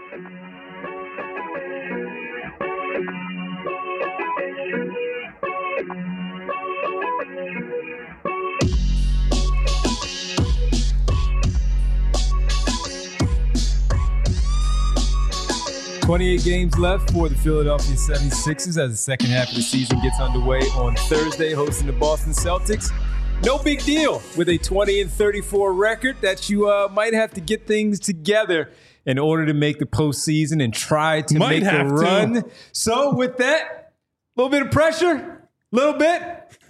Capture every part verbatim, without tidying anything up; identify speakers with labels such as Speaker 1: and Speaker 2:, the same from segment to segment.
Speaker 1: twenty-eight games left for the Philadelphia seventy-sixers as the second half of the season gets underway on Thursday, hosting the Boston Celtics. No big deal with a twenty and thirty-four record that you uh, might have to get things together in order to make the postseason and try to
Speaker 2: might
Speaker 1: make a run.
Speaker 2: To.
Speaker 1: So with that, a little bit of pressure, a little bit,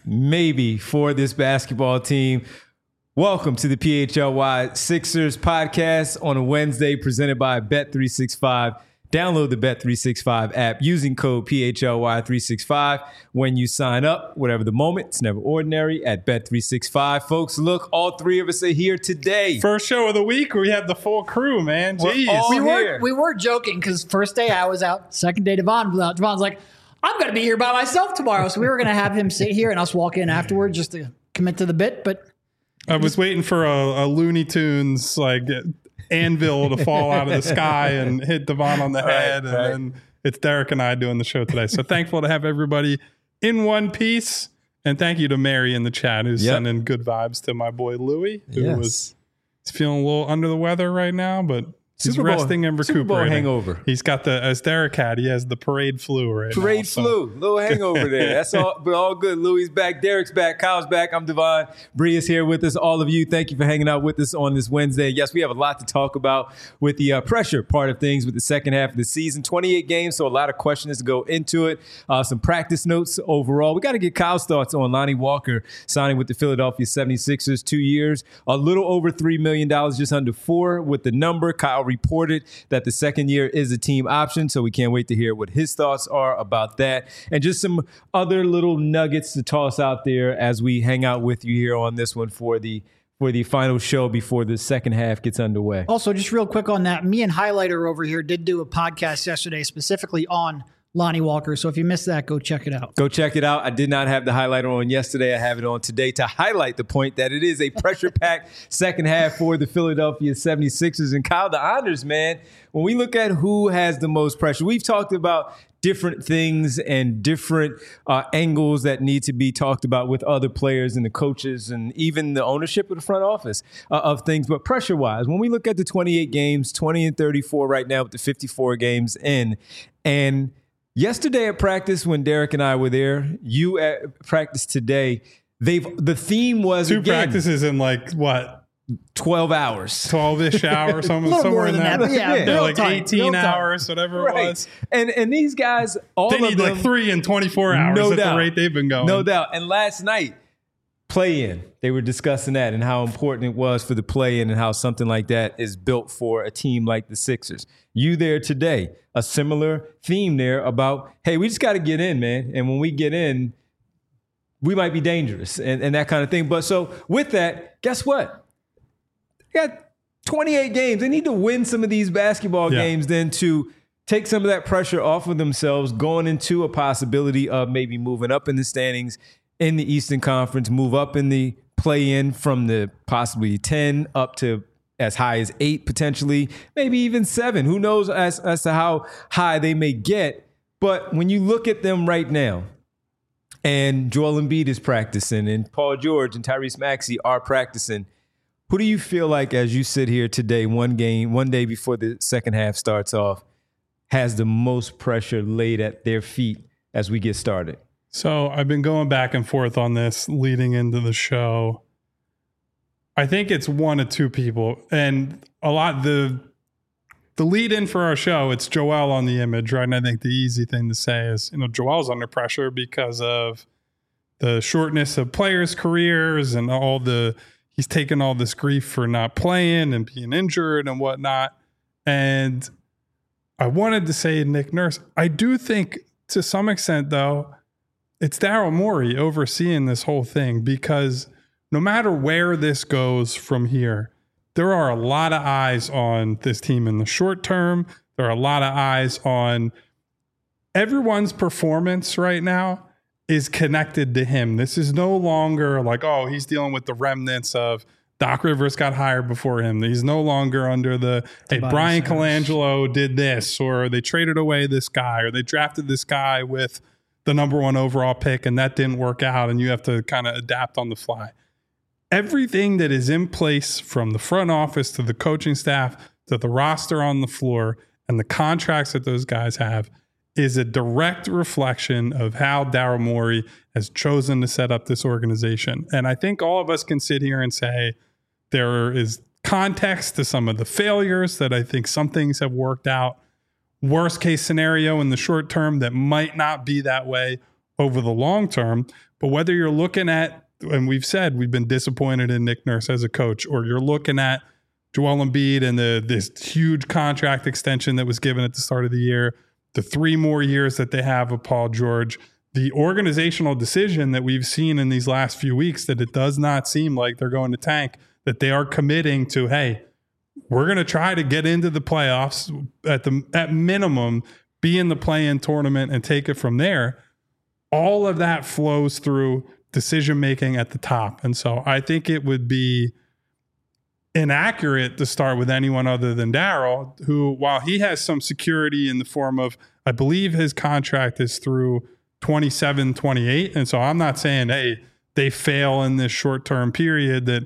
Speaker 1: maybe for this basketball team. Welcome to the P H L Y Sixers podcast on a Wednesday presented by Bet three sixty-five. Download the Bet three sixty-five app using code P H L Y three sixty-five when you sign up. Whatever the moment, it's never ordinary at Bet three sixty-five. Folks, look, all three of us are here today.
Speaker 2: First show of the week, we had the full crew, man. Jeez.
Speaker 3: We were, we were joking because first day I was out, second day Devon was out. Devon's like, I'm going to be here by myself tomorrow. So we were going to have him sit here and us walk in afterward just to commit to the bit. But
Speaker 2: I was waiting for a, a Looney Tunes, like... anvil to fall out of the sky and hit Devon on the head. Right, right. And then it's Derek and I doing the show today. So thankful to have everybody in one piece. And thank you to Mary in the chat who's yep. sending good vibes to my boy Louie, who yes. was he's feeling a little under the weather right now, but he's Super resting Bowl, and recuperating.
Speaker 1: Super Bowl hangover.
Speaker 2: He's got the, as Derek had, he has the parade flu right
Speaker 1: parade
Speaker 2: now.
Speaker 1: Parade flu. So. Little hangover there. That's all, but all good. Louie's back. Derek's back. Kyle's back. I'm Devon. Bree is here with us. All of you, thank you for hanging out with us on this Wednesday. Yes, we have a lot to talk about with the uh, pressure part of things with the second half of the season. twenty-eight games, so a lot of questions to go into it. Uh, some practice notes overall. We got to get Kyle's thoughts on Lonnie Walker signing with the Philadelphia seventy-sixers. Two years, a little over three million dollars, just under four with the number. Kyle reported that the second year is a team option, so we can't wait to hear what his thoughts are about that. And just some other little nuggets to toss out there as we hang out with you here on this one for the for the final show before the second half gets underway.
Speaker 3: Also, just real quick on that, me and Highlighter over here did do a podcast yesterday specifically on Lonnie Walker. So if you missed that, go check it out.
Speaker 1: Go check it out. I did not have the highlighter on yesterday. I have it on today to highlight the point that it is a pressure-packed second half for the Philadelphia seventy-sixers. And Kyle, the honors, man, when we look at who has the most pressure, we've talked about different things and different uh, angles that need to be talked about with other players and the coaches and even the ownership of the front office uh, of things. But pressure-wise, when we look at the twenty-eight games, twenty and thirty-four right now with the fifty-four games in, and yesterday at practice when Derek and I were there, you at practice today, they've the theme was
Speaker 2: two
Speaker 1: again,
Speaker 2: practices in like what?
Speaker 1: twelve hours.
Speaker 2: twelve-ish hours, somewhere, somewhere in that.
Speaker 3: that yeah,
Speaker 2: yeah like
Speaker 3: time,
Speaker 2: eighteen hours, whatever
Speaker 1: right.
Speaker 2: it was.
Speaker 1: And and these guys, all
Speaker 2: they
Speaker 1: of
Speaker 2: need
Speaker 1: them,
Speaker 2: like three and twenty-four hours
Speaker 1: no
Speaker 2: at
Speaker 1: doubt.
Speaker 2: the rate they've been going.
Speaker 1: No doubt. And last night, play-in, they were discussing that and how important it was for the play-in and how something like that is built for a team like the Sixers. You there today, a similar theme there about, hey, we just got to get in, man. And when we get in, we might be dangerous and, and that kind of thing. But so with that, guess what? They got twenty-eight games. They need to win some of these basketball
Speaker 2: yeah.
Speaker 1: games then to take some of that pressure off of themselves going into a possibility of maybe moving up in the standings in the Eastern Conference, move up in the play-in from the possibly ten up to as high as eight potentially, maybe even seven. Who knows as, as to how high they may get. But when you look at them right now, and Joel Embiid is practicing, and Paul George and Tyrese Maxey are practicing, who do you feel like as you sit here today, one game, one day before the second half starts off, has the most pressure laid at their feet as we get started?
Speaker 2: So I've been going back and forth on this leading into the show. I think it's one of two people. And a lot, the the lead in for our show, it's Joel on the image, right? And I think the easy thing to say is, you know, Joel's under pressure because of the shortness of players' careers and all the, he's taken all this grief for not playing and being injured and whatnot. And I wanted to say Nick Nurse. I do think to some extent, though, it's Daryl Morey overseeing this whole thing, because no matter where this goes from here, there are a lot of eyes on this team in the short term. There are a lot of eyes on everyone's performance right now is connected to him. This is no longer like, oh, he's dealing with the remnants of Doc Rivers got hired before him. He's no longer under the, hey,
Speaker 3: Tobias
Speaker 2: Brian
Speaker 3: Harris.
Speaker 2: Colangelo did this, or they traded away this guy, or they drafted this guy with the number one overall pick and that didn't work out and you have to kind of adapt on the fly. Everything that is in place from the front office to the coaching staff to the roster on the floor and the contracts that those guys have is a direct reflection of how Daryl Morey has chosen to set up this organization. And I think all of us can sit here and say there is context to some of the failures that I think some things have worked out. Worst case scenario in the short term that might not be that way over the long term. But whether you're looking at, and we've said we've been disappointed in Nick Nurse as a coach, or you're looking at Joel Embiid and the this huge contract extension that was given at the start of the year, the three more years that they have of Paul George, the organizational decision that we've seen in these last few weeks that it does not seem like they're going to tank, that they are committing to, hey, we're going to try to get into the playoffs at the at minimum, be in the play-in tournament and take it from there. All of that flows through decision-making at the top. And so I think it would be inaccurate to start with anyone other than Daryl, who, while he has some security in the form of, I believe his contract is through twenty-seven, twenty-eight. And so I'm not saying, hey, they fail in this short-term period that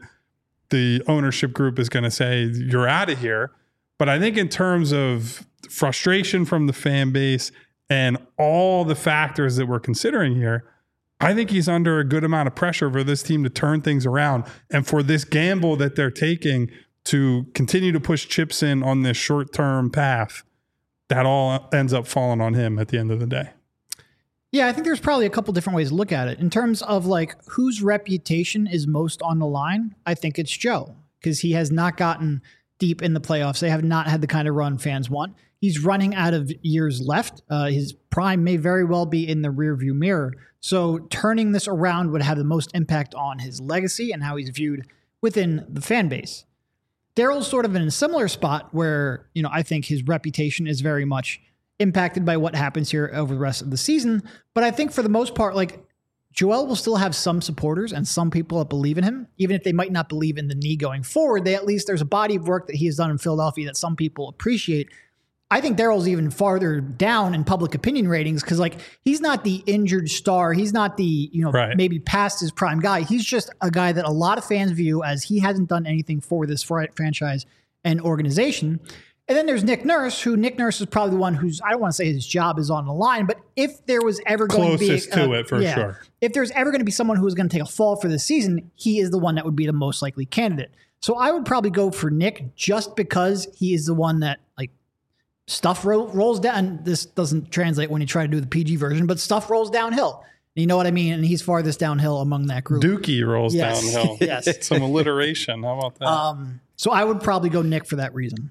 Speaker 2: the ownership group is going to say, you're out of here. But I think in terms of frustration from the fan base and all the factors that we're considering here, I think he's under a good amount of pressure for this team to turn things around and for this gamble that they're taking to continue to push chips in on this short-term path. That all ends up falling on him at the end of the day.
Speaker 3: Yeah, I think there's probably a couple different ways to look at it. In terms of like whose reputation is most on the line, I think it's Joe, because he has not gotten deep in the playoffs. They have not had the kind of run fans want. He's running out of years left. Uh, his prime may very well be in the rearview mirror. So turning this around would have the most impact on his legacy and how he's viewed within the fan base. Daryl's sort of in a similar spot where, you know, I think his reputation is very much impacted by what happens here over the rest of the season. But I think for the most part, like, Joel will still have some supporters and some people that believe in him, even if they might not believe in the knee going forward. They at least, there's a body of work that he has done in Philadelphia that some people appreciate. I think Daryl's even farther down in public opinion ratings because, like, he's not the injured star. He's not the, you know,
Speaker 2: right.
Speaker 3: maybe past his prime guy. He's just a guy that a lot of fans view as he hasn't done anything for this fr- franchise and organization. And then there's Nick Nurse, who Nick Nurse is probably the one who's, I don't want to say his job is on the line, but if there was ever going
Speaker 2: Closest
Speaker 3: to be...
Speaker 2: to
Speaker 3: uh,
Speaker 2: it, for
Speaker 3: yeah,
Speaker 2: sure.
Speaker 3: If there's ever going to be someone who is going to take a fall for the season, he is the one that would be the most likely candidate. So I would probably go for Nick just because he is the one that, like, stuff ro- rolls down. This doesn't translate when you try to do the P G version, but stuff rolls downhill. You know what I mean? And he's farthest downhill among that group.
Speaker 2: Dookie rolls
Speaker 3: Yes.
Speaker 2: downhill.
Speaker 3: Yes.
Speaker 2: Some alliteration. How about that?
Speaker 3: Um, so I would probably go Nick for that reason.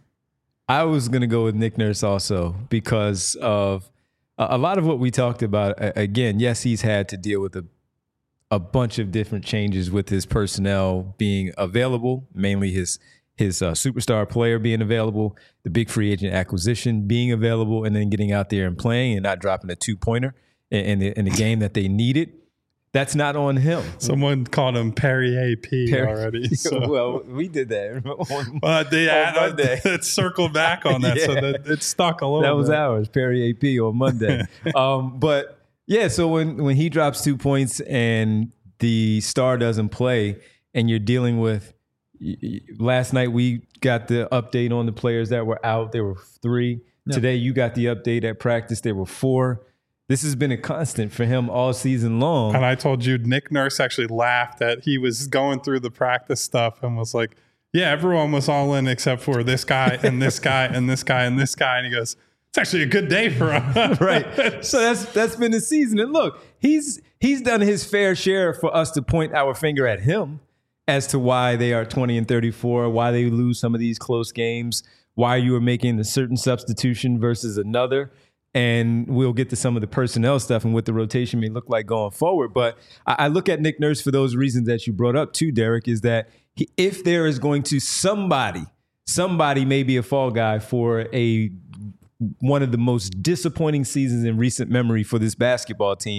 Speaker 1: I was going to go with Nick Nurse also because of a, a lot of what we talked about. A- again, yes, he's had to deal with a, a bunch of different changes with his personnel being available, mainly his his uh, superstar player being available, the big free agent acquisition being available, and then getting out there and playing and not dropping a two-pointer in, in, the, in the game that they needed. That's not on him.
Speaker 2: Someone called him Perrier P
Speaker 1: Perry-
Speaker 2: already. So.
Speaker 1: Well, we did that on,
Speaker 2: But they
Speaker 1: on
Speaker 2: had
Speaker 1: Monday.
Speaker 2: it circled back on that, so
Speaker 1: Yeah.
Speaker 2: that it stuck a little
Speaker 1: That was
Speaker 2: bit.
Speaker 1: ours, Perry A P on Monday. um, but yeah, so when when he drops two points and the star doesn't play, and you're dealing with, y- y- last night we got the update on the players that were out. There were three.
Speaker 3: Yep.
Speaker 1: Today you got the update at practice. There were four. This has been a constant for him all season long.
Speaker 2: And I told you, Nick Nurse actually laughed at, he was going through the practice stuff and was like, yeah, everyone was all in except for this guy and this guy and this guy and this guy. And he goes, it's actually a good day for us.
Speaker 1: Right. So that's that's been the season. And look, he's he's done his fair share for us to point our finger at him as to why they are twenty and thirty-four, why they lose some of these close games, why you are making a certain substitution versus another. And we'll get to some of the personnel stuff and what the rotation may look like going forward. But I, I look at Nick Nurse for those reasons that you brought up too, Derek, is that he, if there is going to somebody, somebody may be a fall guy for a one of the most disappointing seasons in recent memory for this basketball team,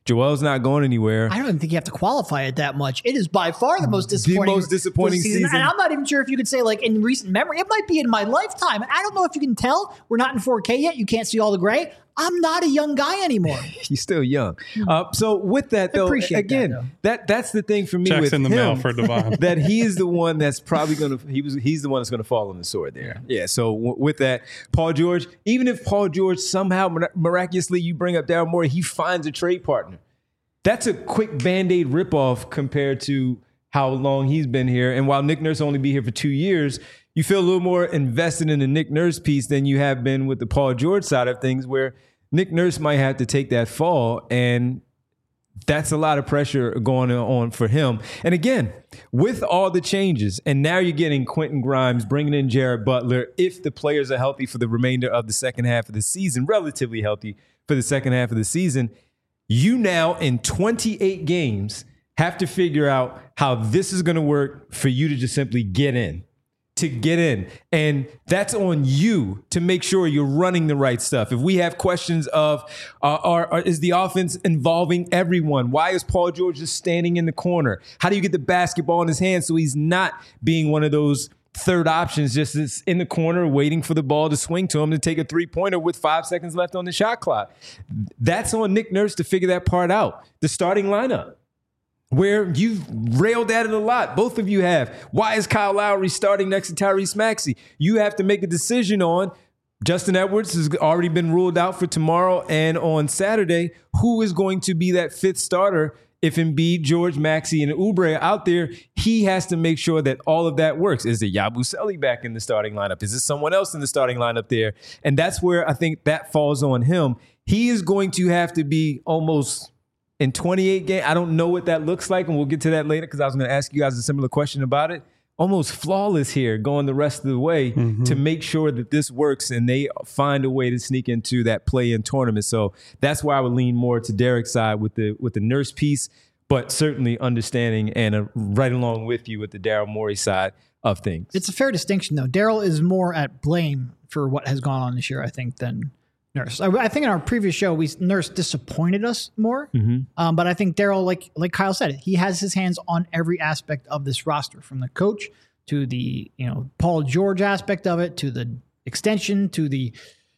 Speaker 1: Joel's not going anywhere.
Speaker 3: I don't even think you have to qualify it that much. It is by far the most disappointing,
Speaker 1: the most disappointing season.
Speaker 3: season. And I'm not even sure if you could say, like, in recent memory. It might be in my lifetime. I don't know if you can tell. We're not in four K yet. You can't see all the gray. I'm not a young guy anymore.
Speaker 1: You're still young. Uh, so with that, though,
Speaker 3: Appreciate
Speaker 1: again,
Speaker 3: that, though.
Speaker 1: that that's the thing for me.
Speaker 2: Checks
Speaker 1: with
Speaker 2: in the
Speaker 1: him,
Speaker 2: mail for Devon.
Speaker 1: that he is the one that's probably going to. He was. He's the one that's going to fall on the sword there. Yeah. So w- with that, Paul George. Even if Paul George somehow mir- miraculously you bring up Daryl Morey, he finds a trade partner. That's a quick Band-Aid ripoff compared to how long he's been here. And while Nick Nurse only be here for two years, you feel a little more invested in the Nick Nurse piece than you have been with the Paul George side of things, where Nick Nurse might have to take that fall, and that's a lot of pressure going on for him. And again, with all the changes, and now you're getting Quentin Grimes, bringing in Jared Butler, if the players are healthy for the remainder of the second half of the season, relatively healthy for the second half of the season, you now in twenty-eight games have to figure out how this is going to work for you to just simply get in. To get in. And that's on you to make sure you're running the right stuff. If we have questions of, uh, are, are, is the offense involving everyone? Why is Paul George just standing in the corner? How do you get the basketball in his hands so he's not being one of those third options, just in the corner waiting for the ball to swing to him to take a three-pointer with five seconds left on the shot clock? That's on Nick Nurse to figure that part out. The starting lineup, where you've railed at it a lot. Both of you have. Why is Kyle Lowry starting next to Tyrese Maxey? You have to make a decision on. Justin Edwards has already been ruled out for tomorrow and on Saturday. Who is going to be that fifth starter if Embiid, George, Maxey, and Oubre are out there? He has to make sure that all of that works. Is it Yabusele back in the starting lineup? Is it someone else in the starting lineup there? And that's where I think that falls on him. He is going to have to be almost... in twenty-eight games, I don't know what that looks like, and we'll get to that later because I was going to ask you guys a similar question about it. Almost flawless here going the rest of the way mm-hmm. to make sure that this works and they find a way to sneak into that play-in tournament. So that's why I would lean more to Derek's side with the with the Nurse piece, but certainly understanding and uh, right along with you with the Daryl Morey side of things.
Speaker 3: It's a fair distinction, though. Daryl is more at blame for what has gone on this year, I think, than Nurse. I, I think in our previous show, we Nurse disappointed us more. Mm-hmm. Um, but I think Daryl, like like Kyle said, he has his hands on every aspect of this roster, from the coach to the you know Paul George aspect of it, to the extension, to the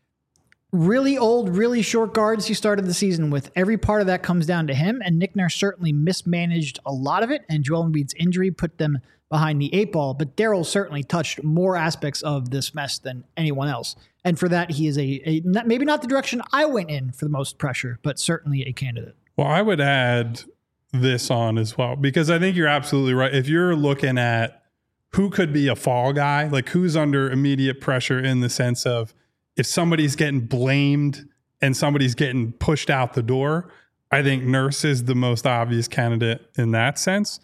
Speaker 3: really old, really short guards he started the season with. Every part of that comes down to him. And Nick Nurse certainly mismanaged a lot of it. And Joel Embiid's injury put them behind the eight ball. But Daryl certainly touched more aspects of this mess than anyone else. And for that, he is a, a maybe not the direction I went in for the most pressure, but certainly a candidate.
Speaker 2: Well, I would add this on as well, because I think you're absolutely right. If you're looking at who could be a fall guy, like who's under immediate pressure in the sense of if somebody's getting blamed and somebody's getting pushed out the door, I think Nurse is the most obvious candidate in that sense.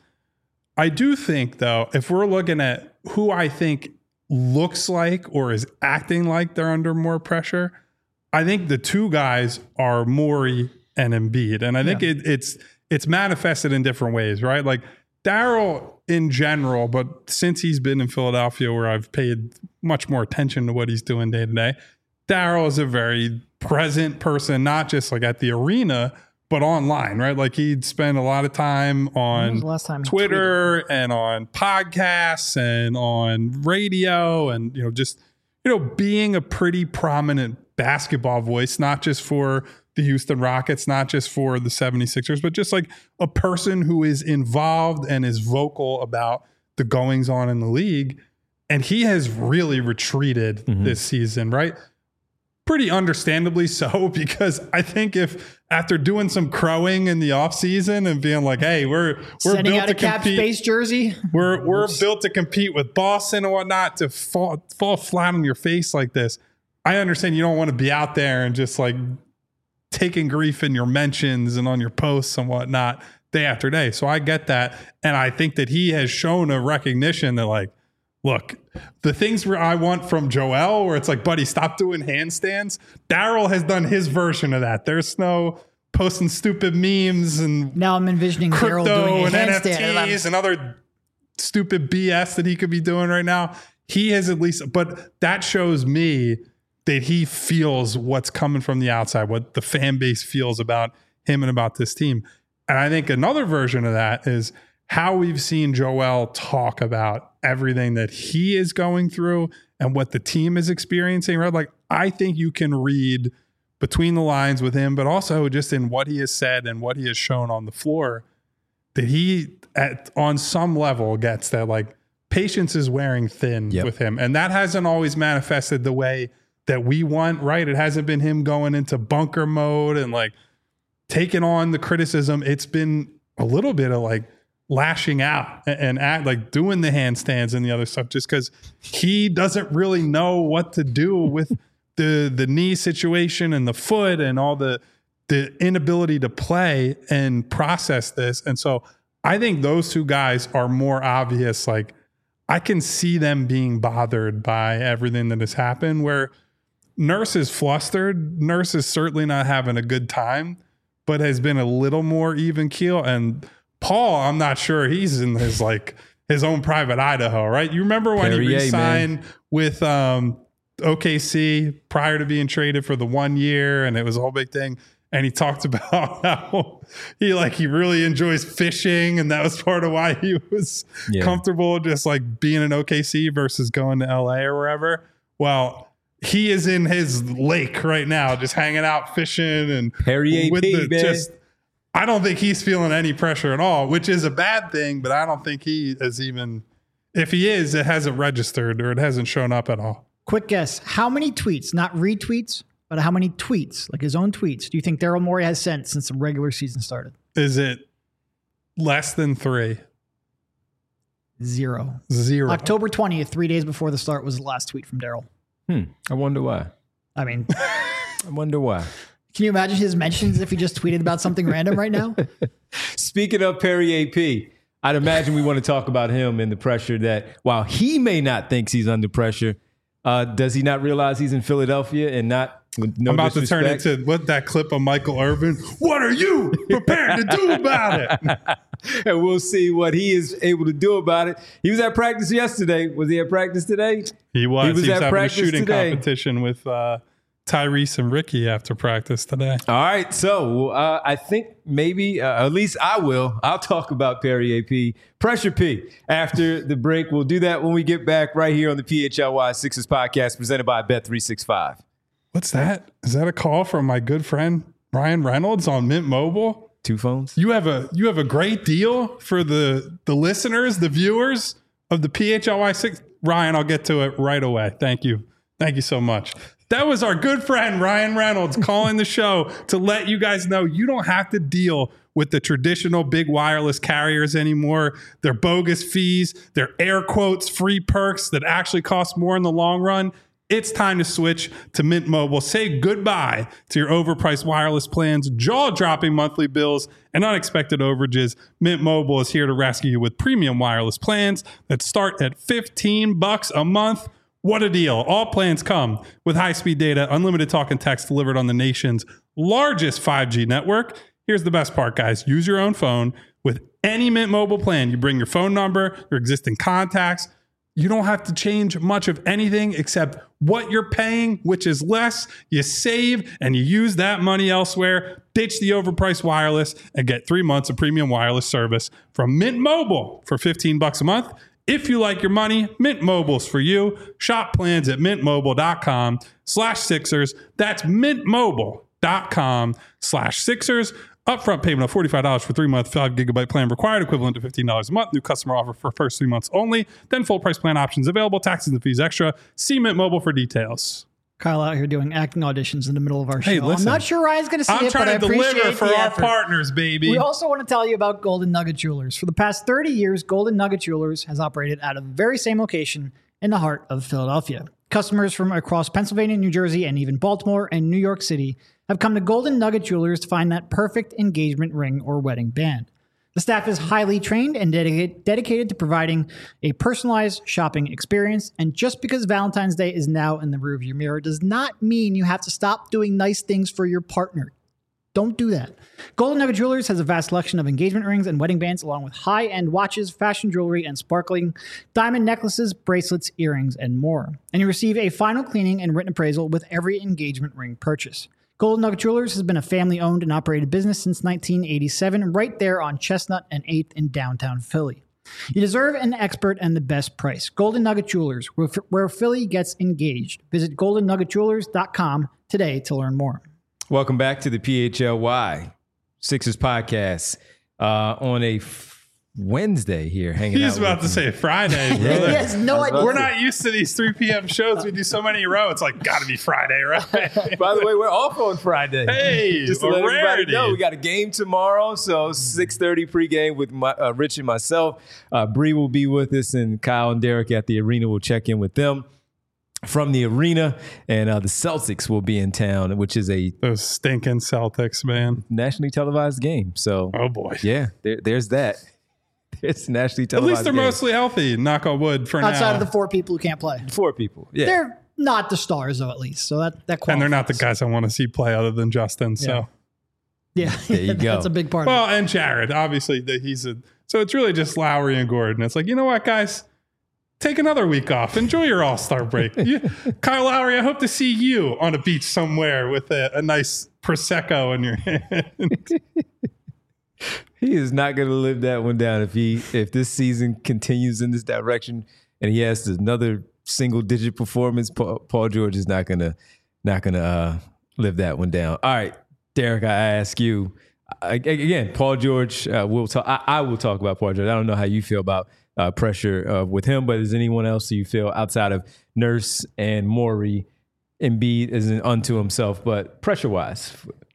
Speaker 2: I do think, though, if we're looking at who I think looks like or is acting like they're under more pressure, I think the two guys are Morey and Embiid. And I think yeah. it, it's it's manifested in different ways, right? Like Daryl in general, but since he's been in Philadelphia where I've paid much more attention to what he's doing day to day, Daryl is a very present person, not just like at the arena, but online, right? Like he'd spend a lot of time on Twitter and on podcasts and on radio and, you know, just, you know, being a pretty prominent basketball voice, not just for the Houston Rockets, not just for the seventy-sixers, but just like a person who is involved and is vocal about the goings on in the league. And he has really retreated mm-hmm. this season, right? Pretty understandably so, because I think if after doing some crowing in the offseason and being like, hey, we're we're
Speaker 3: sending
Speaker 2: built
Speaker 3: out
Speaker 2: to
Speaker 3: a cap
Speaker 2: compete,
Speaker 3: space jersey,
Speaker 2: we're we're built to compete with Boston and whatnot, to fall fall flat on your face like this. I understand you don't want to be out there and just like taking grief in your mentions and on your posts and whatnot day after day. So I get that, and I think that he has shown a recognition that like, look, the things where I want from Joel, where it's like, buddy, stop doing handstands. Daryl has done his version of that. There's no posting stupid memes and
Speaker 3: now I'm envisioning Daryl doing a
Speaker 2: and
Speaker 3: handstand
Speaker 2: N F Ts and other stupid B S that he could be doing right now. He has at least, but that shows me that he feels what's coming from the outside, what the fan base feels about him and about this team. And I think another version of that is how we've seen Joel talk about everything that he is going through and what the team is experiencing, right? Like, I think you can read between the lines with him, but also just in what he has said and what he has shown on the floor, that he, at on some level, gets that, like, patience is wearing thin yep. with him. And that hasn't always manifested the way that we want, right? It hasn't been him going into bunker mode and, like, taking on the criticism. It's been a little bit of, like, lashing out and act like doing the handstands and the other stuff, just because he doesn't really know what to do with the the knee situation and the foot and all the the inability to play and process this. And so I think those two guys are more obvious. Like, I can see them being bothered by everything that has happened, where Nurse is flustered. Nurse is certainly not having a good time, but has been a little more even keel. And Paul, I'm not sure he's in his, like, his own private Idaho, right? You remember when Perrier, he re-signed man. with um, O K C prior to being traded for the one year, and it was a whole big thing. And he talked about how he, like, he really enjoys fishing, and that was part of why he was yeah. comfortable just, like, being in O K C versus going to L A or wherever. Well, he is in his lake right now, just hanging out fishing and
Speaker 1: Perrier
Speaker 2: with
Speaker 1: P,
Speaker 2: the
Speaker 1: man.
Speaker 2: just. I don't think he's feeling any pressure at all, which is a bad thing, but I don't think he is even, if he is, it hasn't registered or it hasn't shown up at all.
Speaker 3: Quick guess. How many tweets, not retweets, but how many tweets, like his own tweets, do you think Daryl Morey has sent since the regular season started?
Speaker 2: Is it less than three?
Speaker 3: Zero.
Speaker 2: Zero.
Speaker 3: October twentieth, three days before the start, was the last tweet from Daryl.
Speaker 1: Hmm. I wonder why.
Speaker 3: I mean,
Speaker 1: I wonder why.
Speaker 3: Can you imagine his mentions if he just tweeted about something random right now?
Speaker 1: Speaking of Perrier P, I'd imagine we want to talk about him and the pressure that, while he may not think he's under pressure, uh, does he not realize he's in Philadelphia and not with no
Speaker 2: I'm about
Speaker 1: disrespect?
Speaker 2: to turn into what that clip of Michael Irvin. What are you prepared to do about it?
Speaker 1: And we'll see what he is able to do about it. He was at practice yesterday. Was he at practice today?
Speaker 2: He was.
Speaker 1: He was,
Speaker 2: he was
Speaker 1: at
Speaker 2: having
Speaker 1: practice
Speaker 2: a shooting
Speaker 1: today.
Speaker 2: competition with uh, Tyrese and Ricky after practice today.
Speaker 1: All right. So uh, I think maybe, uh, at least I will, I'll talk about Perrier P, Pressure P, after the break. We'll do that when we get back right here on the P H L Y Sixers podcast presented by Bet three sixty-five.
Speaker 2: What's that? Is that a call from my good friend Ryan Reynolds on Mint Mobile?
Speaker 1: Two phones?
Speaker 2: You have a you have a great deal for the the listeners, the viewers of the P H L Y six. Ryan, I'll get to it right away. Thank you. Thank you so much. That was our good friend Ryan Reynolds calling the show to let you guys know you don't have to deal with the traditional big wireless carriers anymore. Their bogus fees, their air quotes, free perks that actually cost more in the long run. It's time to switch to Mint Mobile. Say goodbye to your overpriced wireless plans, jaw-dropping monthly bills, and unexpected overages. Mint Mobile is here to rescue you with premium wireless plans that start at fifteen bucks a month. What a deal. All plans come with high-speed data, unlimited talk and text delivered on the nation's largest five G network. Here's the best part, guys. Use your own phone with any Mint Mobile plan. You bring your phone number, your existing contacts. You don't have to change much of anything except what you're paying, which is less. You save and you use that money elsewhere. Ditch the overpriced wireless and get three months of premium wireless service from Mint Mobile for fifteen bucks a month. If you like your money, Mint Mobile's for you. Shop plans at mintmobile.com slash Sixers. That's mintmobile.com slash Sixers. Upfront payment of forty-five dollars for three-month, five gigabyte plan required, equivalent to fifteen dollars a month. New customer offer for first three months only. Then full price plan options available. Taxes and fees extra. See Mint Mobile for details.
Speaker 3: Kyle out here doing acting auditions in the middle of our show.
Speaker 2: Hey, listen,
Speaker 3: I'm not sure Ryan's going to see
Speaker 2: I'm
Speaker 3: it, but I
Speaker 2: trying to
Speaker 3: appreciate
Speaker 2: deliver for
Speaker 3: the
Speaker 2: our
Speaker 3: effort.
Speaker 2: partners, baby.
Speaker 3: We also want to tell you about Golden Nugget Jewelers. For the past thirty years, Golden Nugget Jewelers has operated out of the very same location in the heart of Philadelphia. Customers from across Pennsylvania, New Jersey, and even Baltimore and New York City have come to Golden Nugget Jewelers to find that perfect engagement ring or wedding band. The staff is highly trained and dedicated, dedicated to providing a personalized shopping experience. And just because Valentine's Day is now in the rearview mirror does not mean you have to stop doing nice things for your partner. Don't do that. Golden Nugget Jewelers has a vast selection of engagement rings and wedding bands, along with high-end watches, fashion jewelry, and sparkling diamond necklaces, bracelets, earrings, and more. And you receive a final cleaning and written appraisal with every engagement ring purchase. Golden Nugget Jewelers has been a family-owned and operated business since nineteen eighty-seven, right there on Chestnut and eighth in downtown Philly. You deserve an expert and the best price. Golden Nugget Jewelers, where, where Philly gets engaged. Visit golden nugget jewelers dot com today to learn more.
Speaker 1: Welcome back to the P H L Y Sixers podcast uh, on a f- Wednesday here. Hanging
Speaker 2: He's
Speaker 1: out
Speaker 2: about
Speaker 1: with
Speaker 2: to
Speaker 1: you.
Speaker 2: say Friday.
Speaker 3: He
Speaker 2: Brother.
Speaker 3: has no idea.
Speaker 2: We're not used to these three p.m. shows. We do so many in a row. It's like, got to be Friday, right?
Speaker 1: By the way, we're off on Friday.
Speaker 2: Hey,
Speaker 1: just to
Speaker 2: a
Speaker 1: let everybody
Speaker 2: rarity.
Speaker 1: know, we got a game tomorrow. So six thirty pregame with my, uh, Rich and myself. Uh, Bree will be with us, and Kyle and Derek at the arena will check in with them from the arena. And uh, the Celtics will be in town, which is a
Speaker 2: Those stinking Celtics, man.
Speaker 1: nationally televised game. So,
Speaker 2: Oh, boy.
Speaker 1: yeah, there, there's that. It's nationally
Speaker 2: At
Speaker 1: televised.
Speaker 2: least they're
Speaker 1: game.
Speaker 2: mostly healthy, knock on wood, for
Speaker 3: Outside
Speaker 2: now.
Speaker 3: of the four people who can't play.
Speaker 1: Four people. Yeah.
Speaker 3: They're not the stars, though, at least. So that, that qualifies.
Speaker 2: and they're not the guys I want to see play other than Justin. So,
Speaker 3: Yeah,
Speaker 1: There you go.
Speaker 3: That's a big part of
Speaker 2: well, and Jared, obviously, that he's a. So it's really just Lowry and Gordon. It's like, you know what, guys? Take another week off. Enjoy your All-Star break. You, Kyle Lowry, I hope to see you on a beach somewhere with a, a nice Prosecco in your hand.
Speaker 1: He is not going to live that one down if he if this season continues in this direction and he has another single digit performance. Paul, Paul George is not going to not going to uh, live that one down. All right, Derek, I ask you I, again. Paul George, uh, we'll talk. I, I will talk about Paul George. I don't know how you feel about uh, pressure uh, with him, but is anyone else you feel outside of Nurse and Morey, Embiid isn't unto himself, but pressure wise?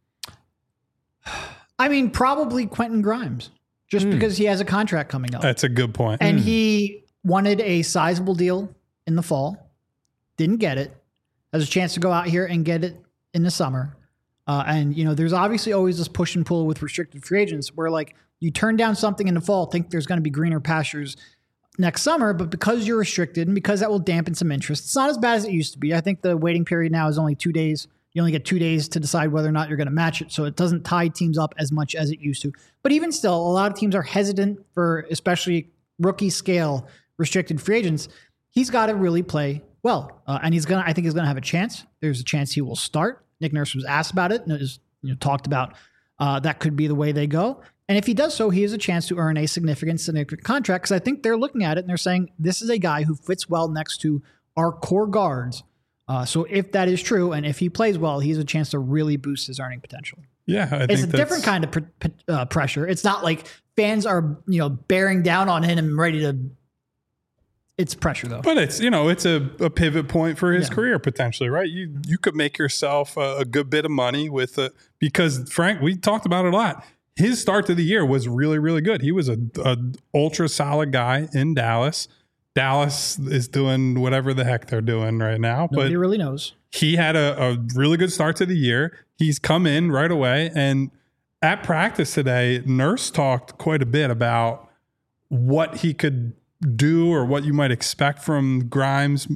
Speaker 3: I mean, probably Quentin Grimes, just
Speaker 1: Mm.
Speaker 3: because he has a contract coming up.
Speaker 2: That's a good point.
Speaker 3: And he wanted a sizable deal in the fall, didn't get it, has a chance to go out here and get it in the summer. Uh, and, you know, there's obviously always this push and pull with restricted free agents where, like, you turn down something in the fall, think there's going to be greener pastures next summer, but because you're restricted and because that will dampen some interest, it's not as bad as it used to be. I think the waiting period now is only two days. You only get two days to decide whether or not you're going to match it. So it doesn't tie teams up as much as it used to. But even still, a lot of teams are hesitant for especially rookie scale restricted free agents. He's got to really play well. Uh, and he's going to, I think he's going to have a chance. There's a chance he will start. Nick Nurse was asked about it and it was, you know, talked about uh, that could be the way they go. And if he does so, he has a chance to earn a significant, significant contract because I think they're looking at it and they're saying, this is a guy who fits well next to our core guards. Uh, so if that is true, and if he plays well, he has a chance to really boost his earning potential.
Speaker 2: yeah, I
Speaker 3: It's
Speaker 2: think
Speaker 3: a
Speaker 2: that's,
Speaker 3: different kind of pr- pr- uh, pressure. It's not like fans are, you know, bearing down on him and ready to. It's pressure though.
Speaker 2: But it's, you know, it's a, a pivot point for his
Speaker 3: Yeah.
Speaker 2: career potentially, right? You you could make yourself a, a good bit of money with it because Frank, we talked about it a lot. His start to the year was really, really good. He was a, a ultra solid guy in Dallas. Dallas is doing whatever the heck they're doing right now, but
Speaker 3: Nobody really knows.
Speaker 2: he had a, a really good start to the year. He's come in right away. And at practice today, Nurse talked quite a bit about what he could do or what you might expect from Grimes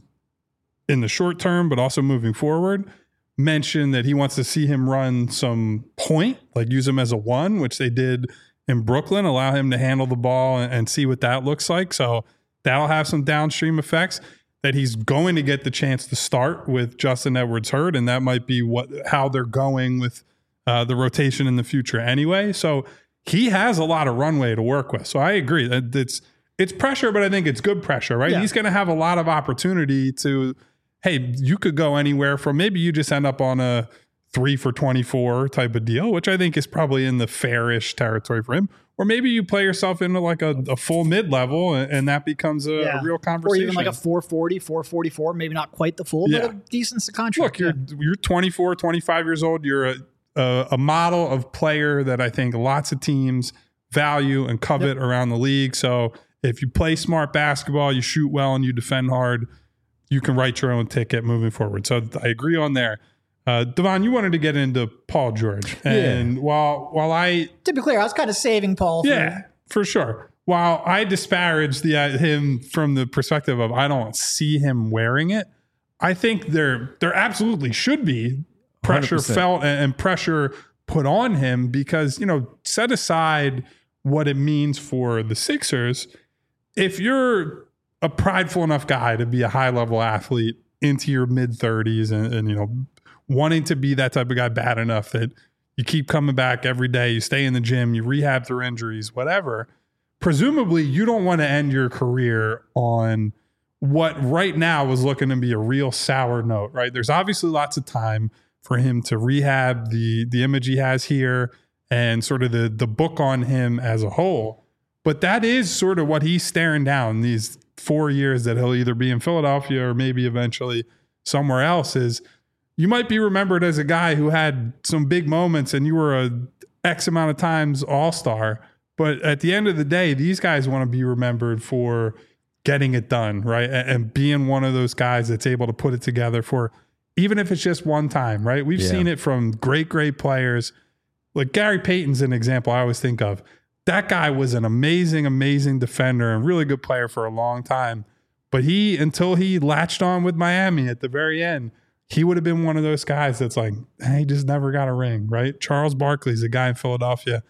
Speaker 2: in the short term, but also moving forward. Mentioned that he wants to see him run some point, like use him as a one, which they did in Brooklyn, allow him to handle the ball and, and see what that looks like. So that'll have some downstream effects. That he's going to get the chance to start with Justin Edwards hurt, and that might be what how they're going with uh, the rotation in the future anyway. So he has a lot of runway to work with. So I agree that it's it's pressure, but I think it's good pressure, right?
Speaker 3: Yeah.
Speaker 2: He's going to have a lot of opportunity to, hey, you could go anywhere from maybe you just end up on a three for twenty-four type of deal, which I think is probably in the fairish territory for him. Or maybe you play yourself into like a, a full mid-level and, and that becomes a,
Speaker 3: Yeah.
Speaker 2: a real
Speaker 3: Or
Speaker 2: conversation.
Speaker 3: even like a four forty, four forty-four, maybe not quite the full,
Speaker 2: Yeah.
Speaker 3: but a decent contract.
Speaker 2: Look, you're you're twenty-four, twenty-five years old. You're a, a, a model of player that I think lots of teams value and covet
Speaker 3: Yep.
Speaker 2: around the league. So if you play smart basketball, you shoot well, and you defend hard, you can write your own ticket moving forward. So I agree on there. Uh, Devon, you wanted to get into Paul George. And
Speaker 1: Yeah.
Speaker 2: while while I
Speaker 3: To be clear, I was kind of saving Paul. For,
Speaker 2: Yeah, for sure. While I disparage the uh, him from the perspective of I don't see him wearing it, I think there there absolutely should be pressure
Speaker 1: one hundred percent.
Speaker 2: felt and, and pressure put on him because, you know, set aside what it means for the Sixers. If you're a prideful enough guy to be a high level athlete into your mid thirties and, and you know wanting to be that type of guy bad enough that you keep coming back every day, you stay in the gym, you rehab through injuries, whatever. Presumably, you don't want to end your career on what right now was looking to be a real sour note, right? There's obviously lots of time for him to rehab the the image he has here and sort of the the book on him as a whole. But that is sort of what he's staring down these four years that he'll either be in Philadelphia or maybe eventually somewhere else. Is you might be remembered as a guy who had some big moments and you were a X amount of times all-star. But at the end of the day, these guys want to be remembered for getting it done, right? And, and being one of those guys that's able to put it together for, even if it's just one time, right? We've yeah. seen it from great, great players. Like Gary Payton's an example I always think of. That guy was an amazing, amazing defender and really good player for a long time. But he, until he latched on with Miami at the very end, he would have been one of those guys that's like, hey, he just never got a ring, right? Charles Barkley's a guy in Philadelphia,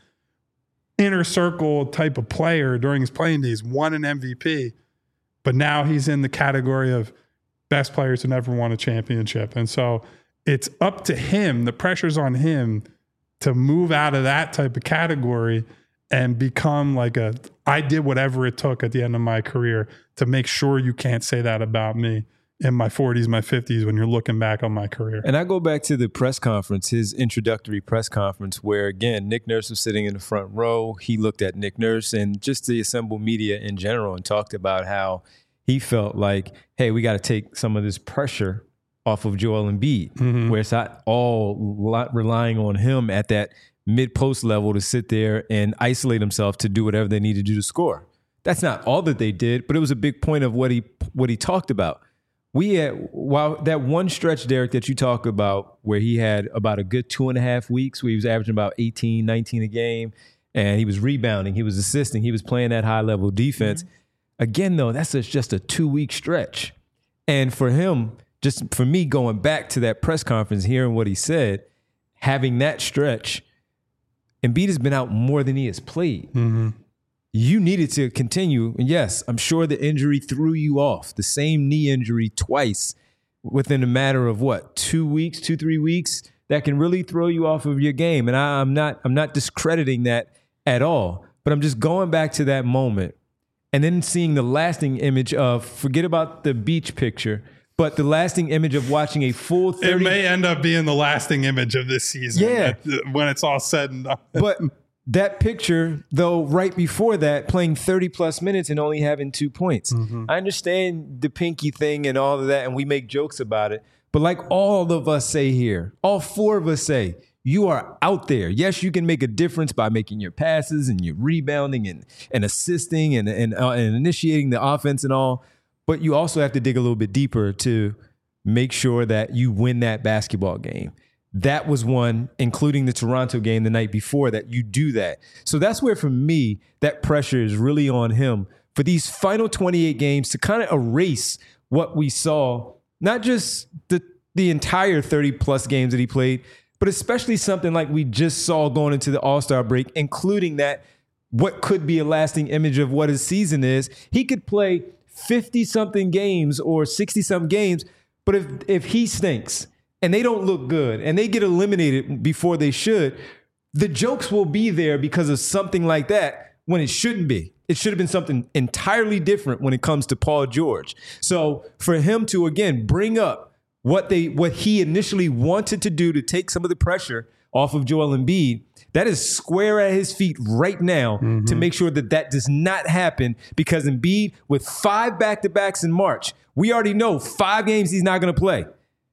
Speaker 2: inner circle type of player during his playing days, won an M V P, but now he's in the category of best players who never won a championship. And so it's up to him, the pressure's on him to move out of that type of category and become like a, I did whatever it took at the end of my career to make sure you can't say that about me in my forties, my fifties, when you're looking back on my career.
Speaker 1: And I go back to the press conference, his introductory press conference, where, again, Nick Nurse was sitting in the front row. He looked at Nick Nurse and just the assembled media in general and talked about how he felt like, hey, we got to take some of this pressure off of Joel Embiid, mm-hmm. where it's not all lot relying on him at that mid-post level to sit there and isolate himself to do whatever they need to do to score. That's not all that they did, but it was a big point of what he what he talked about. We had, while that one stretch, Derek, that you talk about where he had about a good two and a half weeks where he was averaging about eighteen, nineteen a game, and he was rebounding, he was assisting, he was playing that high-level defense. Mm-hmm. Again, though, that's a, just a two-week stretch. And for him, just for me going back to that press conference, hearing what he said, having that stretch, Embiid has been out more than he has played. Mm-hmm. You needed to continue. And yes, I'm sure the injury threw you off. The same knee injury twice within a matter of what, two weeks, two, three weeks, that can really throw you off of your game. And I, I'm not, I'm not discrediting that at all. But I'm just going back to that moment and then seeing the lasting image of, forget about the beach picture, but the lasting image of watching a full thirty.
Speaker 2: It may end up being the lasting image of this season.
Speaker 1: Yeah.
Speaker 2: At, when it's all said and done.
Speaker 1: But that picture, though, right before that, playing thirty plus minutes and only having two points. Mm-hmm. I understand the pinky thing and all of that, and we make jokes about it. But like all of us say here, all four of us say, you are out there. Yes, you can make a difference by making your passes and your rebounding and, and assisting and, and, uh, and initiating the offense and all. But you also have to dig a little bit deeper to make sure that you win that basketball game. That was one, including the Toronto game the night before, that you do that. So that's where, for me, that pressure is really on him for these final twenty-eight games to kind of erase what we saw, not just the, the entire thirty-plus games that he played, but especially something like we just saw going into the All-Star break, including that what could be a lasting image of what his season is. He could play fifty-something games or sixty-something games, but if if he stinks and they don't look good and they get eliminated before they should, the jokes will be there because of something like that when it shouldn't be. It should have been something entirely different when it comes to Paul George. So for him to, again, bring up what they what he initially wanted to do to take some of the pressure off of Joel Embiid, that is square at his feet right now mm-hmm. to make sure that that does not happen, because Embiid, with five back-to-backs in March, we already know five games he's not going to play.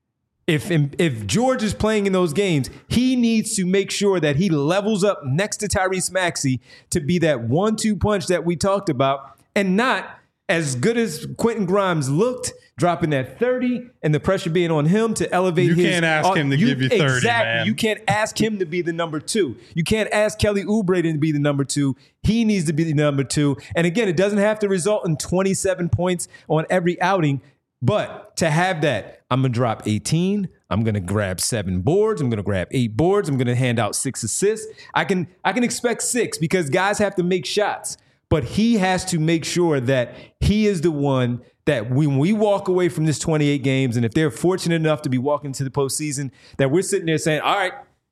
Speaker 1: If, if George is playing in those games, he needs to make sure that he levels up next to Tyrese Maxey to be that one two punch that we talked about, and not as good as Quentin Grimes looked, dropping that thirty and the pressure being on him to elevate
Speaker 2: you
Speaker 1: his...
Speaker 2: You can't ask uh, him to
Speaker 1: you,
Speaker 2: give you thirty,
Speaker 1: exactly,
Speaker 2: man.
Speaker 1: You can't ask him to be the number two. You can't ask Kelly Oubre to be the number two. He needs to be the number two. And again, it doesn't have to result in twenty-seven points on every outing, but to have that, I'm going to drop eighteen, I'm going to grab seven boards, I'm going to grab eight boards, I'm going to hand out six assists. I can I can expect six because guys have to make shots. But he has to make sure that he is the one that when we walk away from this twenty-eight games, and if they're fortunate enough to be walking to the postseason, that we're sitting there saying, all right,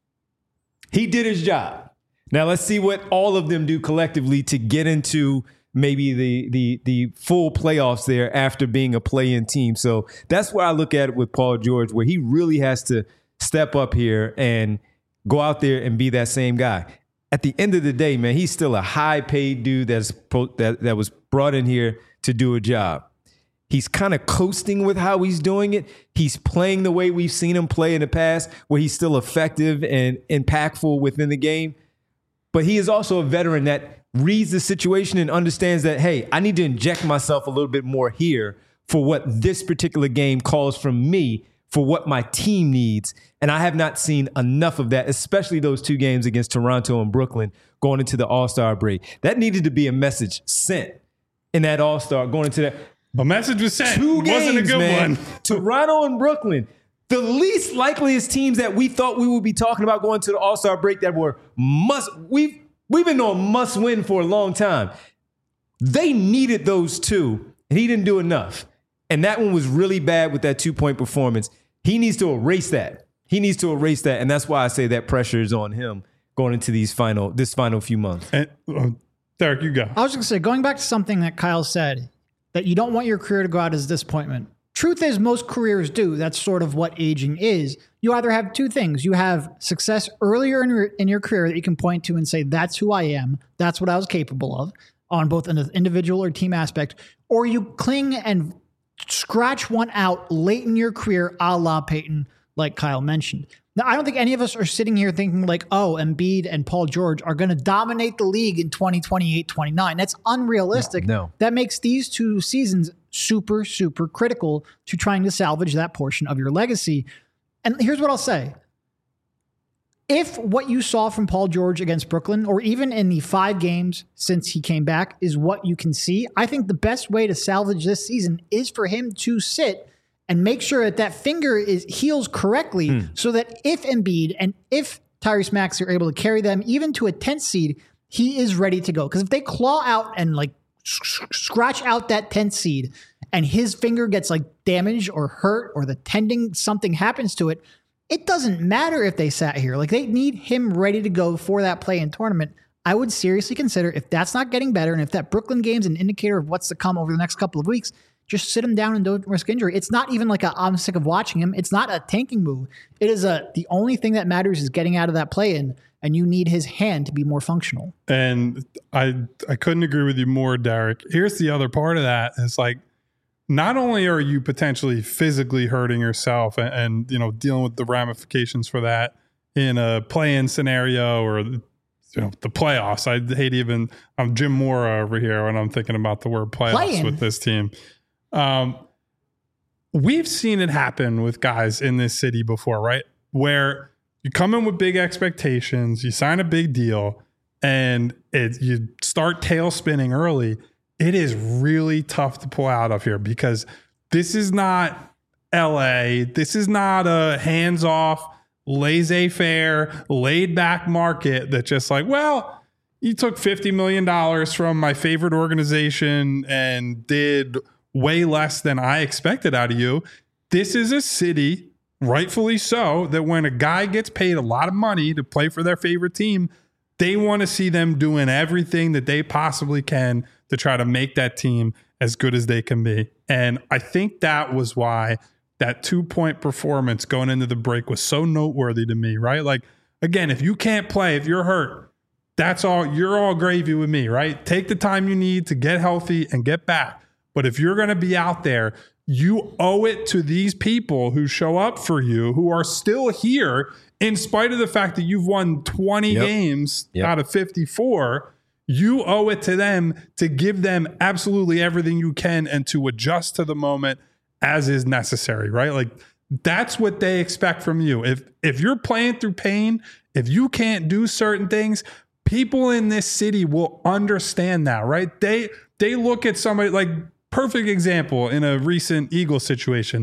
Speaker 1: he did his job. Now let's see what all of them do collectively to get into maybe the the the full playoffs there after being a play-in team. So that's where I look at it with Paul George, where he really has to step up here and go out there and be that same guy. At the end of the day, man, he's still a high-paid dude that's that that was brought in here to do a job. He's kind of coasting with how he's doing it. He's playing the way we've seen him play in the past, where he's still effective and impactful within the game. But he is also a veteran that reads the situation and understands that, hey, I need to inject myself a little bit more here for what this particular game calls from me, for what my team needs. And I have not seen enough of that, especially those two games against Toronto and Brooklyn going into the All-Star break. That needed to be a message sent in that All-Star going into that.
Speaker 2: A message was sent.
Speaker 1: Two
Speaker 2: It
Speaker 1: games,
Speaker 2: wasn't a good
Speaker 1: man.
Speaker 2: one.
Speaker 1: Toronto and Brooklyn, the least likeliest teams that we thought we would be talking about going to the All-Star break that were must. We've we've been on must win for a long time. They needed those two, and he didn't do enough. And that one was really bad with that two-point performance. He needs to erase that. He needs to erase that, and that's why I say that pressure is on him going into these final this final few months.
Speaker 2: And, uh, Derek, you go.
Speaker 3: I was going to say, going back to something that Kyle said, that you don't want your career to go out as disappointment. Truth is, most careers do. That's sort of what aging is. You either have two things. You have success earlier in your, in your career that you can point to and say, that's who I am. That's what I was capable of on both an individual or team aspect. Or you cling and scratch one out late in your career, a la Peyton, like Kyle mentioned. Now, I don't think any of us are sitting here thinking like, oh, Embiid and Paul George are going to dominate the league in twenty twenty-eight twenty-nine. That's unrealistic.
Speaker 1: No, no.
Speaker 3: That makes these two seasons super, super critical to trying to salvage that portion of your legacy. And here's what I'll say. If what you saw from Paul George against Brooklyn, or even in the five games since he came back, is what you can see, I think the best way to salvage this season is for him to sit and make sure that that finger is heals correctly, mm. so that if Embiid and if Tyrese Maxey are able to carry them even to a tenth seed, he is ready to go. Because if they claw out and like scratch out that tenth seed and his finger gets like damaged or hurt or the tendon, something happens to it, it doesn't matter if they sat here. Like, they need him ready to go for that play-in tournament. I would seriously consider, if that's not getting better and if that Brooklyn game's an indicator of what's to come over the next couple of weeks, just sit him down and don't risk injury. It's not even like a, I'm sick of watching him. It's not a tanking move. It is a, the only thing that matters is getting out of that play-in, and you need his hand to be more functional.
Speaker 2: And I I couldn't agree with you more, Derek. Here's the other part of that. It's like, not only are you potentially physically hurting yourself and, and you know dealing with the ramifications for that in a play-in scenario or you know the playoffs. I hate even I'm Jim Mora over here when I'm thinking about the word playoffs Play-in. with this team. Um, we've seen it happen with guys in this city before, right? Where you come in with big expectations, you sign a big deal, and it, you start tail spinning early. It is really tough to pull out of here because this is not L A. This is not a hands-off, laissez-faire, laid-back market that just like, well, you took fifty million dollars from my favorite organization and did way less than I expected out of you. This is a city, rightfully so, that when a guy gets paid a lot of money to play for their favorite team, they want to see them doing everything that they possibly can to try to make that team as good as they can be. And I think that was why that two-point performance going into the break was so noteworthy to me, right? Like, again, if you can't play, if you're hurt, that's all, you're all gravy with me, right? Take the time you need to get healthy and get back. But if you're going to be out there, you owe it to these people who show up for you, who are still here, in spite of the fact that you've won twenty yep. games yep. out of fifty-four. You owe it to them to give them absolutely everything you can and to adjust to the moment as is necessary, right? Like, that's what they expect from you. If if you're playing through pain, if you can't do certain things, people in this city will understand that, right? They they look at somebody like, perfect example in a recent Eagles situation.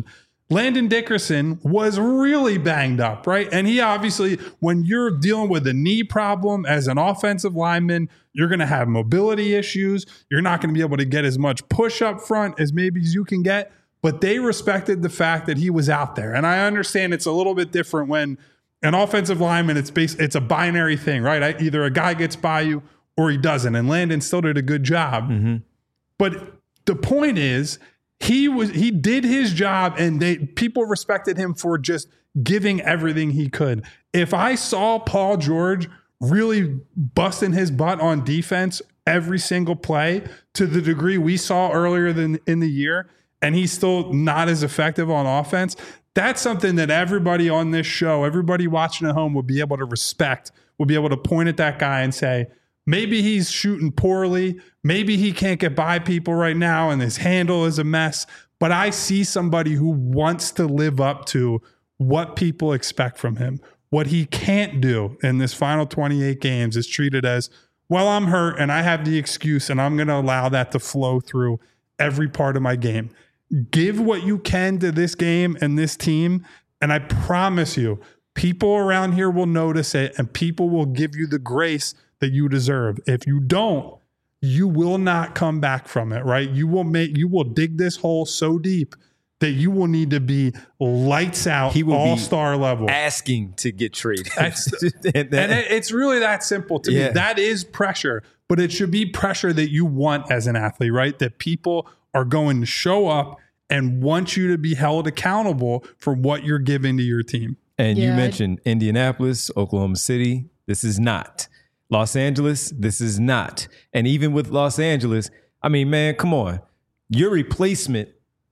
Speaker 2: Landon Dickerson was really banged up, right? And he obviously, when you're dealing with a knee problem as an offensive lineman, you're going to have mobility issues. You're not going to be able to get as much push up front as maybe as you can get. But they respected the fact that he was out there. And I understand it's a little bit different when an offensive lineman, it's based, it's a binary thing, right? I, either a guy gets by you or he doesn't. And Landon still did a good job. Mm-hmm. But the point is, He was he did his job, and they people respected him for just giving everything he could. If I saw Paul George really busting his butt on defense every single play to the degree we saw earlier than in the year, and he's still not as effective on offense, that's something that everybody on this show, everybody watching at home, will be able to respect, will be able to point at that guy and say, maybe he's shooting poorly. Maybe he can't get by people right now and his handle is a mess. But I see somebody who wants to live up to what people expect from him. What he can't do in this final twenty-eight games is treated as, well, I'm hurt and I have the excuse and I'm going to allow that to flow through every part of my game. Give what you can to this game and this team. And I promise you, people around here will notice it and people will give you the grace that you deserve. If you don't, you will not come back from it, right? You will make, you will dig this hole so deep that you will need to be lights out,
Speaker 1: he will
Speaker 2: all-star level.
Speaker 1: Asking to get traded.
Speaker 2: and and it, it's really that simple to yeah. me. That is pressure, but it should be pressure that you want as an athlete, right? That people are going to show up and want you to be held accountable for what you're giving to your team.
Speaker 1: And
Speaker 3: yeah,
Speaker 1: you mentioned I, Indianapolis, Oklahoma City. This is not. Los Angeles, this is not. And even with Los Angeles, I mean, man, come on. Your replacement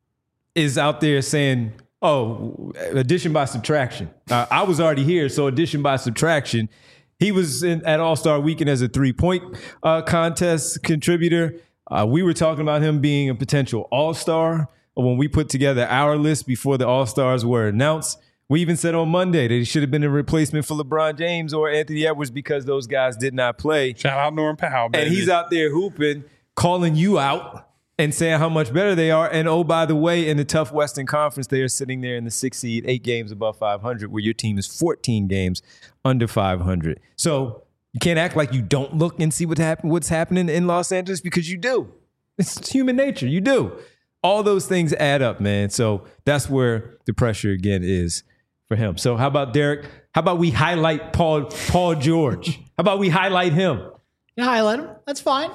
Speaker 1: is out there saying, oh, addition by subtraction. Uh, I was already here, so addition by subtraction. He was in, at All-Star Weekend as a three-point uh, contest contributor. Uh, we were talking about him being a potential All-Star when we put together our list before the All-Stars were announced. We even said on Monday that he should have been a replacement for LeBron James or Anthony Edwards because those guys did not play.
Speaker 2: Shout out Norm Powell, baby.
Speaker 1: And he's out there hooping, calling you out and saying how much better they are. And oh, by the way, in the tough Western Conference, they are sitting there in the sixth seed, eight games above five hundred, where your team is fourteen games under five hundred. So you can't act like you don't look and see what happen, what's happening in Los Angeles, because you do. It's human nature. You do. All those things add up, man. So that's where the pressure again is for him. So how about Derek? How about we highlight Paul Paul George? How about we highlight him?
Speaker 3: You highlight him. That's fine.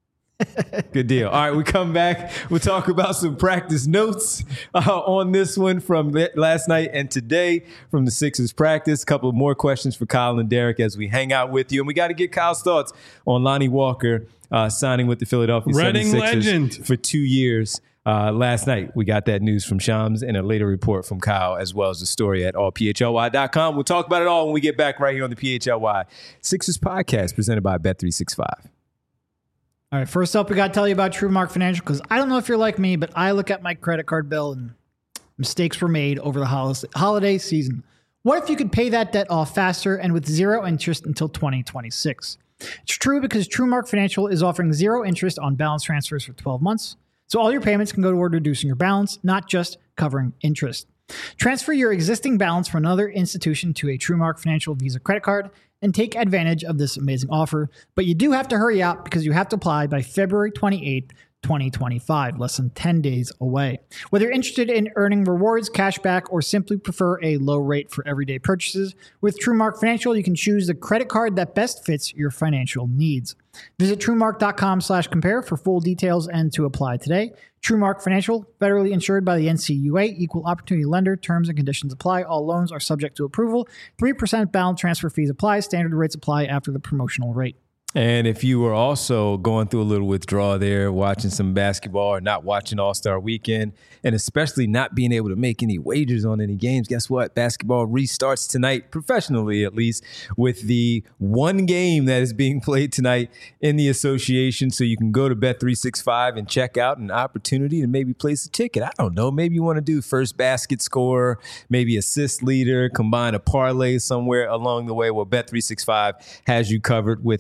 Speaker 1: Good deal. All right, we come back. We'll talk about some practice notes uh, on this one from last night and today from the Sixers practice. A couple of more questions for Kyle and Derek as we hang out with you. And we got to get Kyle's thoughts on Lonnie Walker uh, signing with the Philadelphia
Speaker 2: Reading
Speaker 1: seventy-sixers
Speaker 2: legend.
Speaker 1: for two years. Uh, last night, we got that news from Shams and a later report from Kyle, as well as the story at all P H L Y dot com. We'll talk about it all when we get back right here on the P H L Y Sixers podcast presented by Bet three sixty-five.
Speaker 3: All right, first up, we got to tell you about TrueMark Financial, because I don't know if you're like me, but I look at my credit card bill and mistakes were made over the holiday season. What if you could pay that debt off faster and with zero interest until twenty twenty-six? It's true because TrueMark Financial is offering zero interest on balance transfers for twelve months. So all your payments can go toward reducing your balance, not just covering interest. Transfer your existing balance from another institution to a TrueMark Financial Visa credit card and take advantage of this amazing offer. But you do have to hurry out because you have to apply by February twenty-eighth, twenty twenty-five, less than ten days away. Whether you're interested in earning rewards, cash back, or simply prefer a low rate for everyday purchases, with TrueMark Financial, you can choose the credit card that best fits your financial needs. Visit TrueMark.com slash compare for full details and to apply today. TrueMark Financial, federally insured by the N C U A, equal opportunity lender. Terms and conditions apply. All loans are subject to approval. three percent balance transfer fees apply. Standard rates apply after the promotional rate.
Speaker 1: And if you were also going through a little withdrawal there, watching some basketball or not watching All-Star Weekend, and especially not being able to make any wagers on any games, guess what? Basketball restarts tonight, professionally at least, with the one game that is being played tonight in the association. So you can go to Bet three sixty-five and check out an opportunity to maybe place a ticket. I don't know. Maybe you want to do first basket scorer, maybe assist leader, combine a parlay somewhere along the way. Well, Bet three sixty-five has you covered with that one.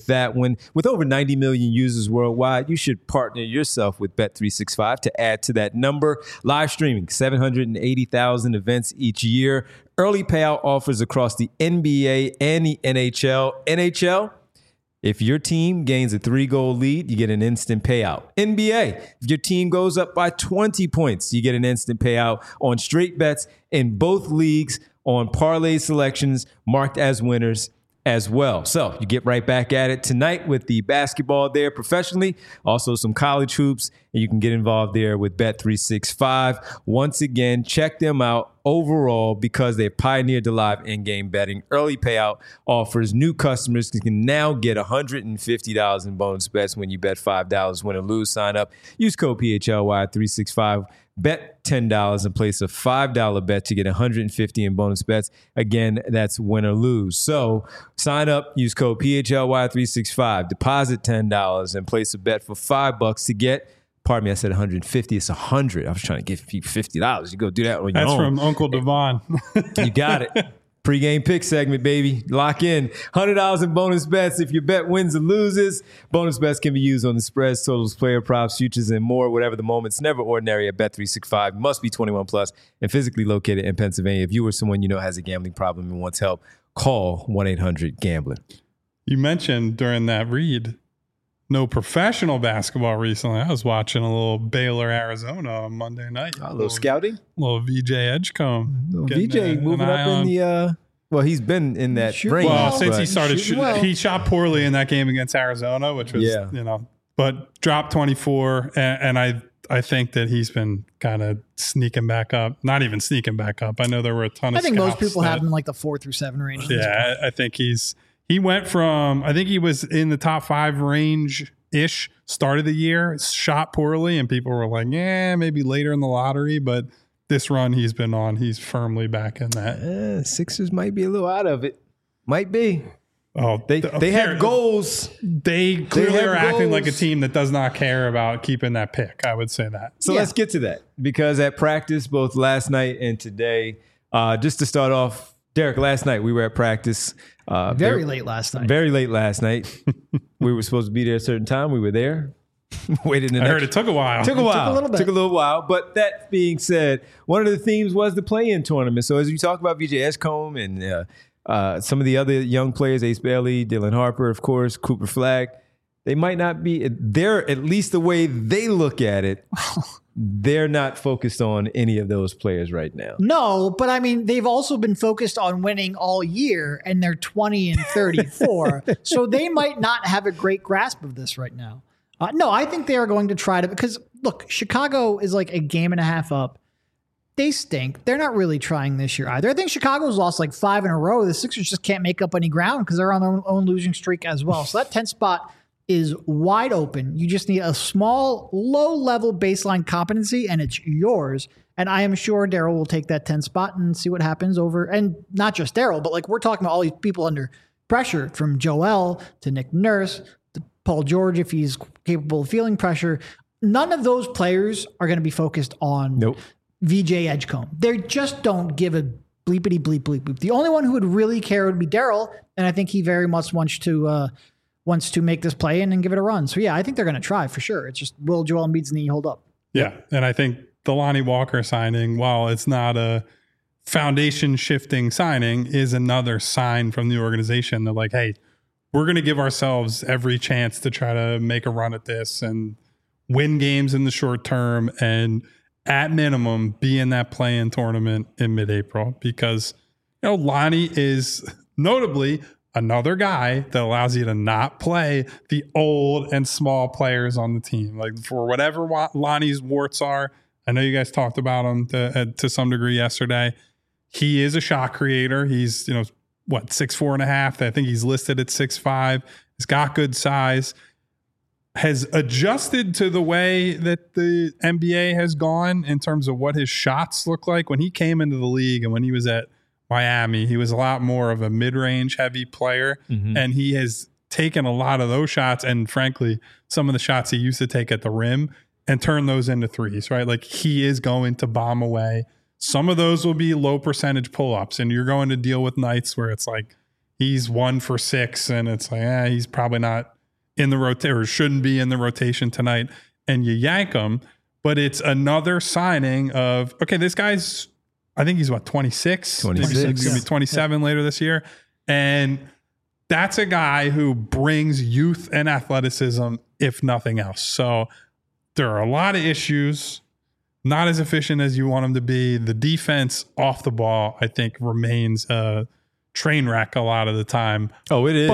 Speaker 1: one. With over ninety million users worldwide, you should partner yourself with Bet three sixty-five to add to that number. Live streaming, seven hundred eighty thousand events each year. Early payout offers across the N B A and the N H L. N H L, if your team gains a three-goal lead, you get an instant payout. N B A, if your team goes up by twenty points, you get an instant payout on straight bets in both leagues on parlay selections marked as winners as well. So you get right back at it tonight with the basketball there professionally, also some college hoops, and you can get involved there with Bet three sixty-five. Once again, check them out overall because they've pioneered the live in-game betting. Early payout offers new customers can now get one hundred fifty dollars in bonus bets when you bet five dollars, win or lose. Sign up. Use code P H L Y three sixty-five. Bet ten dollars and place a five dollars bet to get one hundred fifty dollars in bonus bets. Again, that's win or lose. So sign up, use code P H L Y three sixty-five, deposit ten dollars and place a bet for five bucks to get, pardon me, I said one hundred fifty. It's one hundred. I was trying to give you fifty dollars. You go do that on your
Speaker 2: That's
Speaker 1: own.
Speaker 2: That's from Uncle Devon.
Speaker 1: You got it. Pre-game pick segment, baby. Lock in. one hundred dollars in bonus bets if your bet wins or loses. Bonus bets can be used on the spreads, totals, player props, futures, and more. Whatever the moment, it's never ordinary at Bet three sixty-five. Must be twenty-one plus and physically located in Pennsylvania. If you or someone you know has a gambling problem and wants help, call one eight hundred gambler.
Speaker 2: You mentioned during that read, no professional basketball recently. I was watching a little Baylor, Arizona on Monday night.
Speaker 1: A little, little scouting?
Speaker 2: Little V J Edgecombe.
Speaker 1: Little V J moving up in the... Uh, well, he's been in that
Speaker 3: Shoot,
Speaker 1: range.
Speaker 2: Well, since
Speaker 1: but.
Speaker 2: he started, sh-
Speaker 3: well.
Speaker 2: he shot poorly in that game against Arizona, which was,
Speaker 1: yeah.
Speaker 2: you know, but dropped twenty-four. And, and I I think that he's been kind of sneaking back up. Not even sneaking back up. I know there were a ton of
Speaker 3: I think most
Speaker 2: scouts
Speaker 3: people
Speaker 2: that,
Speaker 3: have him in like the four through seven range.
Speaker 2: Yeah, I, I think he's... He went from, I think he was in the top five range-ish, started the year, shot poorly, and people were like, yeah, maybe later in the lottery, but this run he's been on, he's firmly back in that.
Speaker 1: Uh, Sixers might be a little out of it. Might be.
Speaker 2: Oh,
Speaker 1: They
Speaker 2: the,
Speaker 1: they
Speaker 2: here,
Speaker 1: have goals.
Speaker 2: They clearly
Speaker 1: have
Speaker 2: are acting
Speaker 1: goals.
Speaker 2: like a team that does not care about keeping that pick. I would say that.
Speaker 1: So
Speaker 3: Yeah.
Speaker 1: let's get to that because at practice, both last night and today, uh, just to start off, Derek, last night we were at practice. Uh,
Speaker 3: Very late last night.
Speaker 1: Very late last night. We were supposed to be there at a certain time. We were there. Waited an
Speaker 2: I heard
Speaker 1: extra-
Speaker 2: it took a while.
Speaker 1: Took a while.
Speaker 3: a little bit.
Speaker 1: Took a little while. But that being said, one of the themes was the play-in tournament. So as we talk about V J Edgecombe and uh, uh, some of the other young players, Ace Bailey, Dylan Harper, of course, Cooper Flagg, they might not be. They're at least the way they look at it. They're not focused on any of those players right now.
Speaker 3: No, but I mean, they've also been focused on winning all year, and they're twenty and thirty-four. So they might not have a great grasp of this right now. Uh, no, I think they are going to try to, because look, Chicago is like a game and a half up. They stink. They're not really trying this year either. I think Chicago's lost like five in a row. The Sixers just can't make up any ground because they're on their own, own losing streak as well. So that tenth spot is wide open. You just need a small, low-level baseline competency, and it's yours. And I am sure Daryl will take that tenth spot and see what happens over. And not just Daryl, but like we're talking about all these people under pressure, from Joel to Nick Nurse to Paul George, if he's capable of feeling pressure. None of those players are going to be focused on
Speaker 1: Nope.
Speaker 3: V J Edgecombe. They just don't give a bleepity bleep bleep bleep. The only one who would really care would be Daryl, and I think he very much wants to uh, wants to make this play in and give it a run. So yeah, I think they're going to try for sure. It's just, will Joel Embiid's knee hold up?
Speaker 2: Yeah, and I think the Lonnie Walker signing, while it's not a foundation shifting signing, is another sign from the organization that like, hey, we're going to give ourselves every chance to try to make a run at this and win games in the short term, and at minimum be in that play-in tournament in mid-April, because you know Lonnie is notably another guy that allows you to not play the old and small players on the team. Like for whatever Lonnie's warts are, I know you guys talked about him to, to some degree yesterday. He is a shot creator. He's, you know, what, six, four and a half. I think he's listed at six, five. He's got good size, has adjusted to the way that the N B A has gone in terms of what his shots look like. When he came into the league and when he was at Miami, he was a lot more of a mid-range heavy player, mm-hmm. and he has taken a lot of those shots and frankly, some of the shots he used to take at the rim and turn those into threes, right? Like he is going to bomb away. Some of those will be low percentage pull-ups, and you're going to deal with nights where it's like he's one for six and it's like, eh, he's probably not in the rotation or shouldn't be in the rotation tonight and you yank him. But it's another signing of, okay, this guy's, I think he's what, twenty-six?
Speaker 1: twenty-six.
Speaker 2: He's going to be twenty-seven yeah. later this year. And that's a guy who brings youth and athleticism, if nothing else. So there are a lot of issues, not as efficient as you want him to be. The defense off the ball, I think, remains a train wreck a lot of the time.
Speaker 1: Oh, it is.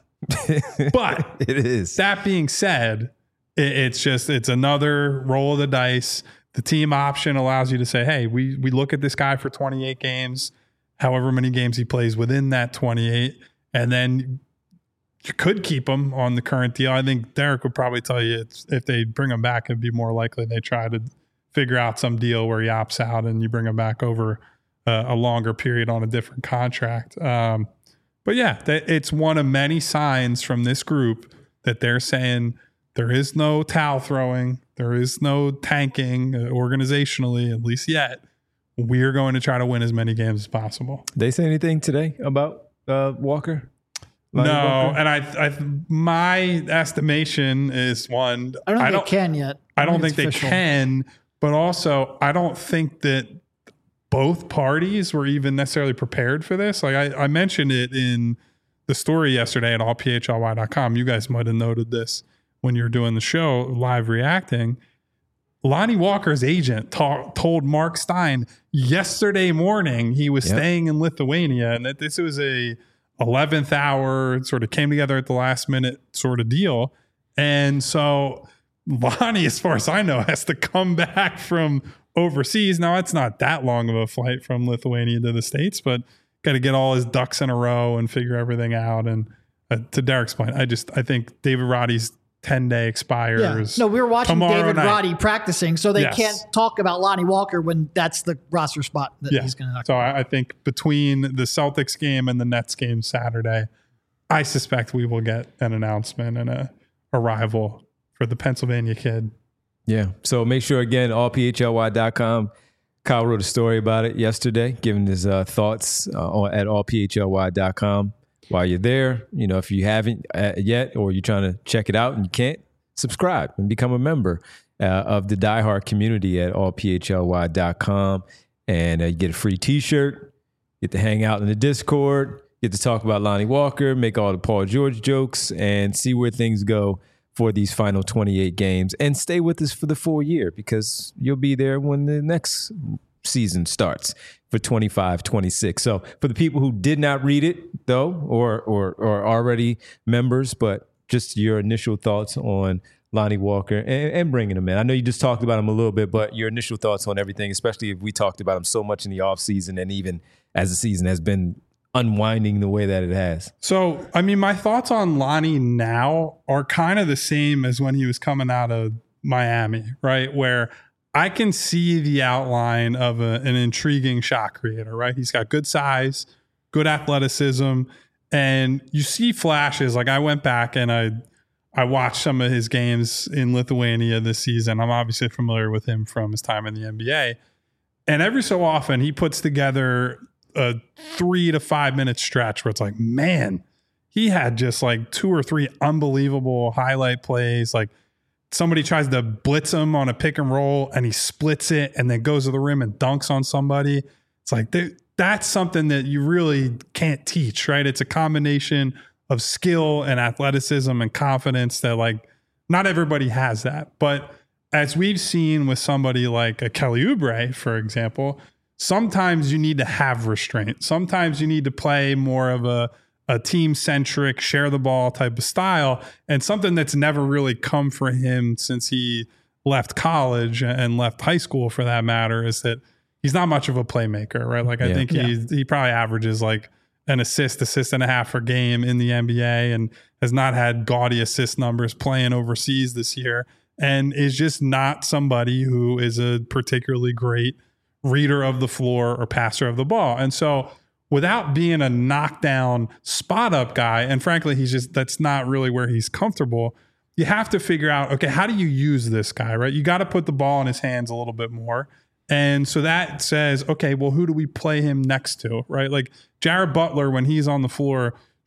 Speaker 2: But, but
Speaker 1: it is.
Speaker 2: That being said, it's just, it's another roll of the dice. The team option allows you to say, hey, we we look at this guy for twenty-eight games, however many games he plays within that twenty-eight, and then you could keep him on the current deal. I think Derek would probably tell you it's, if they bring him back, it'd be more likely they try to figure out some deal where he opts out and you bring him back over uh, a longer period on a different contract. Um, but yeah, that, it's one of many signs from this group that they're saying, there is no towel throwing. There is no tanking uh, organizationally, at least yet. We're going to try to win as many games as possible.
Speaker 1: They say anything today about uh, Walker?
Speaker 2: Lonnie no, Walker? And I, I, my estimation is one.
Speaker 3: I don't think I don't, they can yet.
Speaker 2: I, I don't
Speaker 3: think,
Speaker 2: think they can, but also I don't think that both parties were even necessarily prepared for this. Like I, I mentioned it in the story yesterday at all P H L Y dot com. You guys might have noted this when you're doing the show, live reacting. Lonnie Walker's agent ta- told Mark Stein yesterday morning he was yep. staying in Lithuania and that this was a eleventh hour, sort of came together at the last minute sort of deal. And so Lonnie, as far as I know, has to come back from overseas. Now, it's not that long of a flight from Lithuania to the States, but got to get all his ducks in a row and figure everything out. And uh, to Derek's point, I just, I think David Roddy's ten day expires. Yeah.
Speaker 3: No, we were watching David
Speaker 2: night.
Speaker 3: Roddy practicing, so they
Speaker 2: yes.
Speaker 3: can't talk about Lonnie Walker when that's the roster spot that yeah. he's going to knock.
Speaker 2: So I, I think between the Celtics game and the Nets game Saturday, I suspect we will get an announcement and a arrival for the Pennsylvania kid.
Speaker 1: Yeah. So make sure, again, all P H L Y dot com. Kyle wrote a story about it yesterday, giving his uh, thoughts uh, at all P H L Y dot com. While you're there, you know, if you haven't uh, yet, or you're trying to check it out and you can't, subscribe and become a member uh, of the diehard community at all P H L Y dot com. And uh, you get a free t-shirt, get to hang out in the Discord, get to talk about Lonnie Walker, make all the Paul George jokes, and see where things go for these final twenty-eight games. And stay with us for the full year, because you'll be there when the next season starts for twenty-five twenty-six. So for the people who did not read it, though, or or or already members, but just your initial thoughts on Lonnie Walker and, and bringing him in. I know you just talked about him a little bit, but your initial thoughts on everything, especially if we talked about him so much in the offseason and even as the season has been unwinding the way that it has.
Speaker 2: So, I mean, my thoughts on Lonnie now are kind of the same as when he was coming out of Miami, right? Where I can see the outline of a, an intriguing shot creator, right? He's got good size, good athleticism, and you see flashes. Like I went back and I I watched some of his games in Lithuania this season. I'm obviously familiar with him from his time in the N B A. And every so often he puts together a three to five minute stretch where it's like, man, he had just like two or three unbelievable highlight plays. Like somebody tries to blitz him on a pick and roll and he splits it and then goes to the rim and dunks on somebody. It's like, that's something that you really can't teach, right? It's a combination of skill and athleticism and confidence that like not everybody has that. But as we've seen with somebody like a Kelly Oubre, for example, sometimes you need to have restraint. Sometimes you need to play more of a, a team-centric, share the ball type of style. And something that's never really come for him since he left college and left high school, for that matter, is that he's not much of a playmaker, right? Like I yeah. think he yeah. he probably averages like an assist, assist and a half per game in the N B A and has not had gaudy assist numbers playing overseas this year, and is just not somebody who is a particularly great reader of the floor or passer of the ball. And so without being a knockdown spot up guy, and frankly, he's just, that's not really where he's comfortable. You have to figure out, okay, how do you use this guy, right? You got to put the ball in his hands a little bit more. And so that says, okay, well, who do we play him next to, right? Like Jared Butler, when he's on the floor,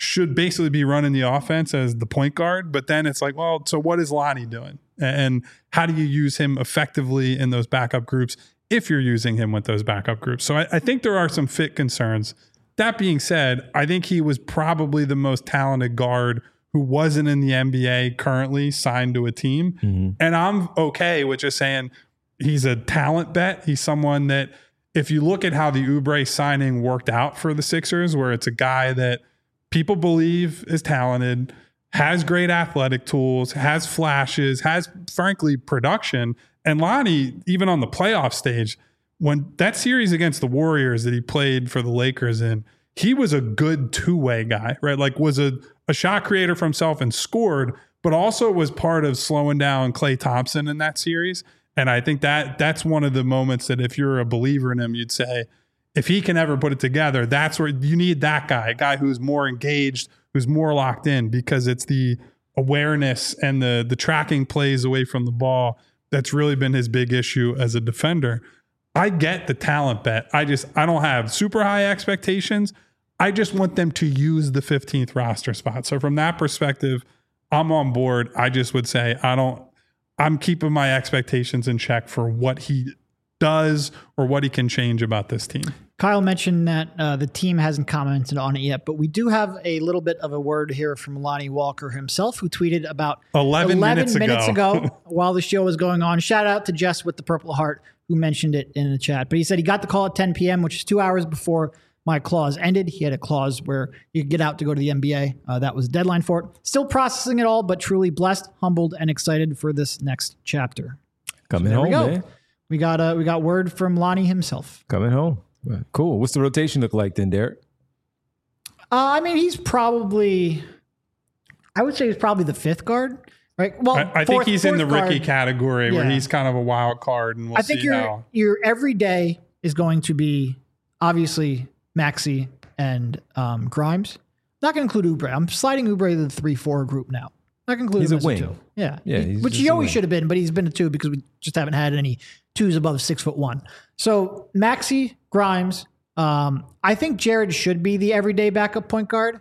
Speaker 2: should basically be running the offense as the point guard. But then it's like, well, so what is Lonnie doing? And how do you use him effectively in those backup groups if you're using him with those backup groups? So I, I think there are some fit concerns. That being said, I think he was probably the most talented guard who wasn't in the N B A currently signed to a team. Mm-hmm. And I'm okay with just saying he's a talent bet. He's someone that, if you look at how the Oubre signing worked out for the Sixers, where it's a guy that people believe is talented, has great athletic tools, has flashes, has, frankly, production. And Lonnie, even on the playoff stage, when that series against the Warriors that he played for the Lakers in, he was a good two-way guy, right? Like was a, a shot creator for himself and scored, but also was part of slowing down Klay Thompson in that series. And I think that that's one of the moments that if you're a believer in him, you'd say, if he can ever put it together, that's where you need that guy, a guy who's more engaged, who's more locked in, because it's the awareness and the the tracking plays away from the ball that's really been his big issue as a defender. I get the talent bet. I just, I don't have super high expectations. I just want them to use the fifteenth roster spot. So from that perspective, I'm on board. I just would say, I don't, I'm keeping my expectations in check for what he does or what he can change about this team.
Speaker 3: Kyle mentioned that uh, the team hasn't commented on it yet, but we do have a little bit of a word here from Lonnie Walker himself, who tweeted about
Speaker 2: eleven, eleven minutes,
Speaker 3: minutes
Speaker 2: ago.
Speaker 3: ago while the show was going on. Shout out to Jess with the Purple Heart, who mentioned it in the chat. But he said he got the call at ten p.m., which is two hours before my clause ended. He had a clause where you could get out to go to the N B A. Uh, that was the deadline for it. Still processing it all, but truly blessed, humbled, and excited for this next chapter.
Speaker 1: Coming
Speaker 3: so
Speaker 1: home,
Speaker 3: we go.
Speaker 1: man.
Speaker 3: We got uh, we got word from Lonnie himself.
Speaker 1: Coming home. Cool. What's the rotation look like then, Derek?
Speaker 3: Uh, I mean, he's probably, I would say he's probably the fifth guard, right? Well,
Speaker 2: I, I
Speaker 3: fourth,
Speaker 2: think he's in the
Speaker 3: guard.
Speaker 2: Ricky category
Speaker 3: Yeah.
Speaker 2: where he's kind of a wild card, and we'll
Speaker 3: I think
Speaker 2: see
Speaker 3: your
Speaker 2: how.
Speaker 3: your everyday is going to be obviously Maxey and um, Grimes. Not going to include Oubre. I'm sliding Oubre to the three four group now. Not going to include
Speaker 1: He's
Speaker 3: him
Speaker 1: a
Speaker 3: as
Speaker 1: wing.
Speaker 3: a two. Yeah,
Speaker 1: Yeah,
Speaker 3: He-
Speaker 1: he's
Speaker 3: which
Speaker 1: just
Speaker 3: he
Speaker 1: a
Speaker 3: always
Speaker 1: wing.
Speaker 3: should have been, but he's been a two because we just haven't had any twos above six foot one. So Maxey, Grimes. Um, I think Jared should be the everyday backup point guard.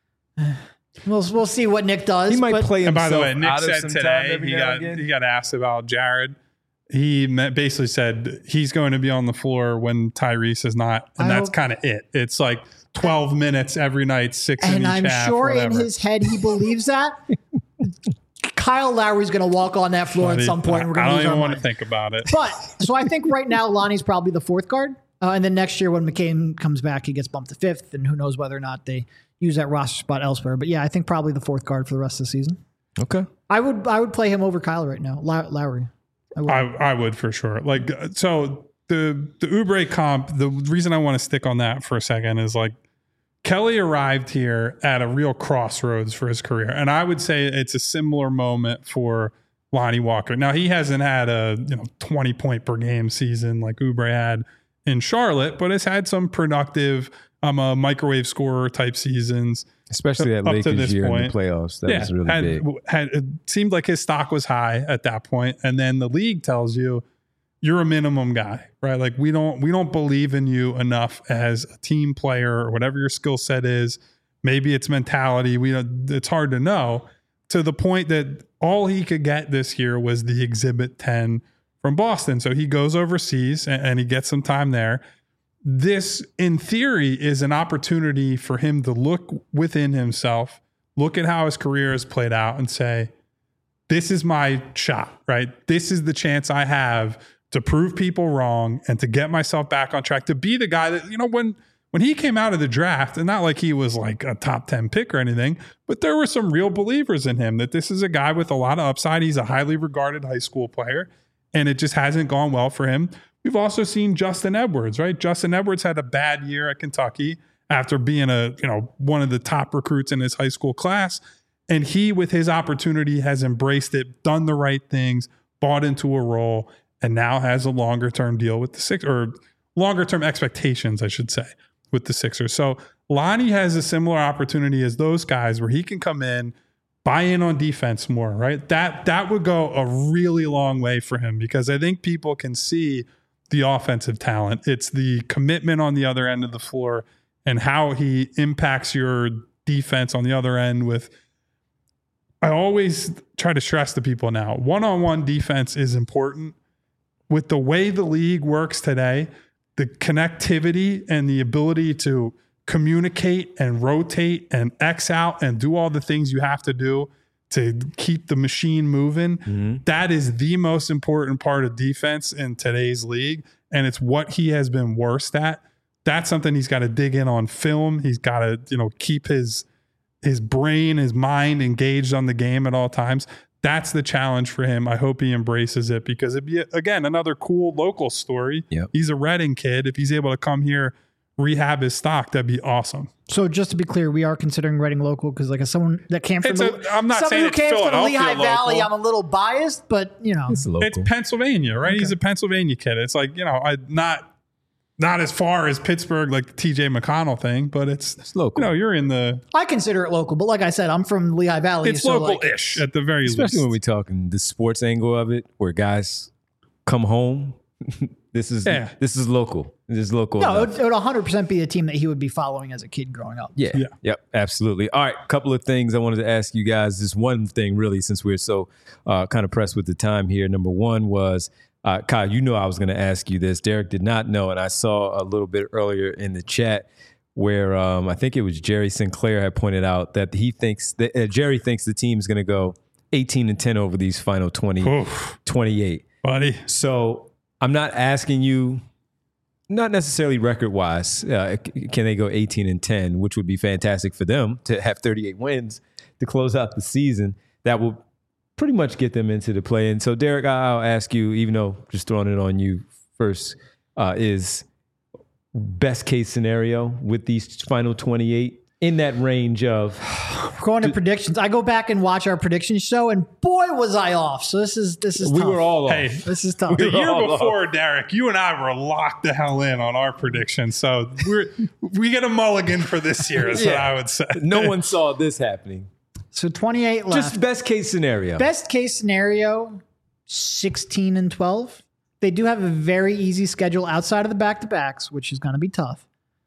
Speaker 3: We'll we'll see what Nick does.
Speaker 1: He might
Speaker 3: but
Speaker 1: play
Speaker 2: And
Speaker 1: himself
Speaker 2: by the way, Nick
Speaker 1: out of
Speaker 2: said
Speaker 1: some
Speaker 2: today
Speaker 1: time every
Speaker 2: he
Speaker 1: now
Speaker 2: got
Speaker 1: and again.
Speaker 2: he got asked about Jared. He met- basically said he's going to be on the floor when Tyrese is not, and
Speaker 3: I
Speaker 2: that's
Speaker 3: hope-
Speaker 2: kind of it. It's like twelve minutes every night, six in
Speaker 3: And
Speaker 2: each
Speaker 3: I'm
Speaker 2: half,
Speaker 3: sure in
Speaker 2: whatever.
Speaker 3: his head he believes that. Kyle Lowry's going to walk on that floor at some point. And we're
Speaker 2: I
Speaker 3: going to
Speaker 2: don't
Speaker 3: lose
Speaker 2: even
Speaker 3: our
Speaker 2: want to
Speaker 3: mind.
Speaker 2: think about it.
Speaker 3: But so I think right now Lonnie's probably the fourth guard, uh, and then next year when McCain comes back, he gets bumped to fifth, and who knows whether or not they use that roster spot elsewhere. But yeah, I think probably the fourth guard for the rest of the season.
Speaker 1: Okay.
Speaker 3: I would I would play him over Kyle right now, Low- Lowry. I would.
Speaker 2: I, I would for sure. Like, so the the Oubre comp, the reason I want to stick on that for a second is like Kelly arrived here at a real crossroads for his career. And I would say it's a similar moment for Lonnie Walker. Now, he hasn't had a you know twenty point per game season like Oubre had in Charlotte, but has had some productive um, uh, microwave scorer type seasons.
Speaker 1: Especially that
Speaker 2: Up to
Speaker 1: Lakers
Speaker 2: this
Speaker 1: year in
Speaker 2: point.
Speaker 1: the playoffs. That was really
Speaker 2: had,
Speaker 1: big.
Speaker 2: Had, it seemed like his stock was high at that point, and then the league tells you you're a minimum guy, right? Like we don't we don't believe in you enough as a team player or whatever your skill set is. Maybe it's mentality. We don't, it's hard to know. To the point that all he could get this year was the Exhibit ten from Boston. So he goes overseas and, and he gets some time there. This, in theory, is an opportunity for him to look within himself, look at how his career has played out and say, this is my shot, right? This is the chance I have to prove people wrong and to get myself back on track, to be the guy that, you know, when when he came out of the draft, and not like he was like a top ten pick or anything, but there were some real believers in him that this is a guy with a lot of upside. He's a highly regarded high school player, and it just hasn't gone well for him. We've also seen Justin Edwards, right? Justin Edwards had a bad year at Kentucky after being a, you know, one of the top recruits in his high school class. And he, with his opportunity, has embraced it, done the right things, bought into a role, and now has a longer term deal with the Sixers, or longer term expectations, I should say, with the Sixers. So Lonnie has a similar opportunity as those guys where he can come in, buy in on defense more, right? That that would go a really long way for him, because I think people can see the offensive talent. It's the commitment on the other end of the floor and how he impacts your defense on the other end with, I always try to stress to people now, one-on-one defense is important. With the way the league works today, the connectivity and the ability to communicate and rotate and X out and do all the things you have to do to keep the machine moving, mm-hmm. that is the most important part of defense in today's league. And it's what he has been worst at. That's something he's got to dig in on film. He's got to, you know, keep his his brain, his mind engaged on the game at all times. That's the challenge for him. I hope he embraces it because it'd be, again, another cool local story.
Speaker 1: Yep.
Speaker 2: He's a Reading kid. If he's able to come here, rehab his stock, that'd be awesome.
Speaker 3: So just to be clear, we are considering Reading local because, like, as someone that came from
Speaker 2: It's
Speaker 3: the,
Speaker 2: a- I'm not
Speaker 3: someone
Speaker 2: saying
Speaker 3: who
Speaker 2: it's
Speaker 3: came from the
Speaker 2: Philadelphia
Speaker 3: Lehigh Valley,
Speaker 2: local.
Speaker 3: I'm a little biased, but you know,
Speaker 1: It's local.
Speaker 2: It's Pennsylvania, right?
Speaker 3: Okay.
Speaker 2: He's a Pennsylvania kid. It's like, you know, I not not as far as Pittsburgh, like the T J McConnell thing, but it's,
Speaker 1: It's local.
Speaker 2: You know, you're in the
Speaker 3: I consider it local. But like I said, I'm from Lehigh Valley.
Speaker 2: it's
Speaker 3: so like,
Speaker 2: local-ish at the very
Speaker 1: Especially
Speaker 2: least.
Speaker 1: when we're talking the sports angle of it, where guys come home. this is
Speaker 2: Yeah.
Speaker 1: this is local. This is local.
Speaker 3: No, it
Speaker 1: enough.
Speaker 3: would, it would one hundred percent be a team that he would be following as a kid growing up.
Speaker 1: Yeah.
Speaker 2: Yeah.
Speaker 1: Yep. Absolutely. All right. Couple of things I wanted to ask you guys. This one thing, really, since we're so uh, kind of pressed with the time here. Number one was, uh, Kyle, you know I was going to ask you this. Derek did not know. And I saw a little bit earlier in the chat where um, I think it was Jerry Sinclair had pointed out that he thinks that uh, Jerry thinks the team is going to go eighteen and ten over these final twenty,
Speaker 2: Oof,
Speaker 1: twenty-eight.
Speaker 2: buddy.
Speaker 1: So I'm not asking you, not necessarily record wise, uh, c- can they go eighteen and ten, which would be fantastic for them to have thirty-eight wins to close out the season. That will pretty much get them into the play. And so, Derek, I'll ask you, even though just throwing it on you first, uh, is best case scenario with these final twenty-eight in that range of.
Speaker 3: We're going to predictions. I go back and watch our prediction show, and boy, was I off. So this is this is
Speaker 1: We
Speaker 3: tough.
Speaker 1: were all off.
Speaker 2: Hey,
Speaker 3: This is tough.
Speaker 2: the year
Speaker 1: all
Speaker 2: before, Derek, you and I were locked the hell in on our predictions. So we're we get a mulligan for this year, is what
Speaker 1: Yeah.
Speaker 2: I would say.
Speaker 1: No one saw this happening.
Speaker 3: So twenty-eight left.
Speaker 1: Just best case scenario.
Speaker 3: Best case scenario, sixteen and twelve. They do have a very easy schedule outside of the back-to-backs, which is going to be tough.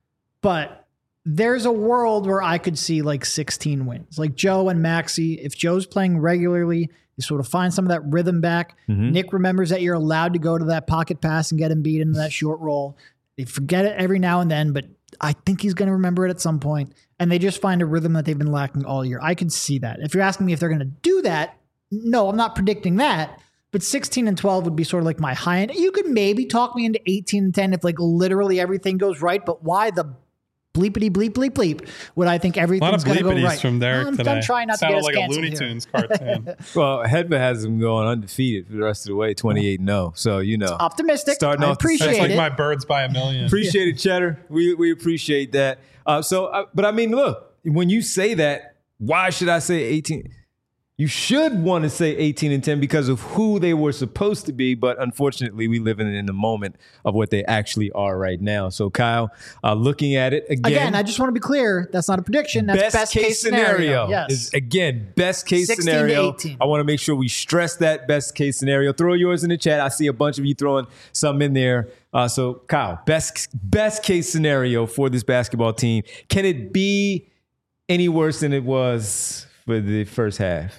Speaker 3: But there's a world where I could see like sixteen wins. Like Joe and Maxey, if Joe's playing regularly, you sort of find some of that rhythm back.
Speaker 1: Mm-hmm.
Speaker 3: Nick remembers that you're allowed to go to that pocket pass and get him beat into that short roll. They forget it every now and then, but I think he's going to remember it at some point. And they just find a rhythm that they've been lacking all year. I could see that. If you're asking me if they're going to do that, no, I'm not predicting that. But sixteen and twelve would be sort of like my high end. You could maybe talk me into eighteen and ten if like literally everything goes right. But why the bleepity bleep bleep bleep would I think
Speaker 2: A lot of
Speaker 3: everything's going to go
Speaker 2: bleepities
Speaker 3: right?
Speaker 2: from Derek
Speaker 3: I'm,
Speaker 2: today.
Speaker 3: I'm trying not
Speaker 2: Sounded
Speaker 3: to get us
Speaker 2: like a
Speaker 3: canceled
Speaker 2: Looney
Speaker 3: here.
Speaker 2: Tunes cartoon.
Speaker 1: Well, Hedva has them going undefeated for the rest of the way, twenty-eight and oh. So, you know.
Speaker 3: Optimistic.
Speaker 1: Starting
Speaker 3: I
Speaker 1: off the
Speaker 3: appreciate
Speaker 2: That's like
Speaker 3: it.
Speaker 2: my birds by a million.
Speaker 1: Appreciate it, Cheddar. We we appreciate that. Uh, so, uh, but I mean, look, when you say that, why should I say eighteen? You should want to say eighteen and ten because of who they were supposed to be, but unfortunately, we live in, in the moment of what they actually are right now. So, Kyle, uh, looking at it again,
Speaker 3: Again, I just want to be clear. That's not a prediction. That's
Speaker 1: best, case, scenario.
Speaker 3: Yes.
Speaker 1: Is, again, best case
Speaker 3: sixteen to
Speaker 1: scenario.
Speaker 3: eighteen.
Speaker 1: I want to make sure we stress that best case scenario. Throw yours in the chat. I see a bunch of you throwing some in there. Uh, so, Kyle, best best case scenario for this basketball team. Can it be any worse than it was for the first half?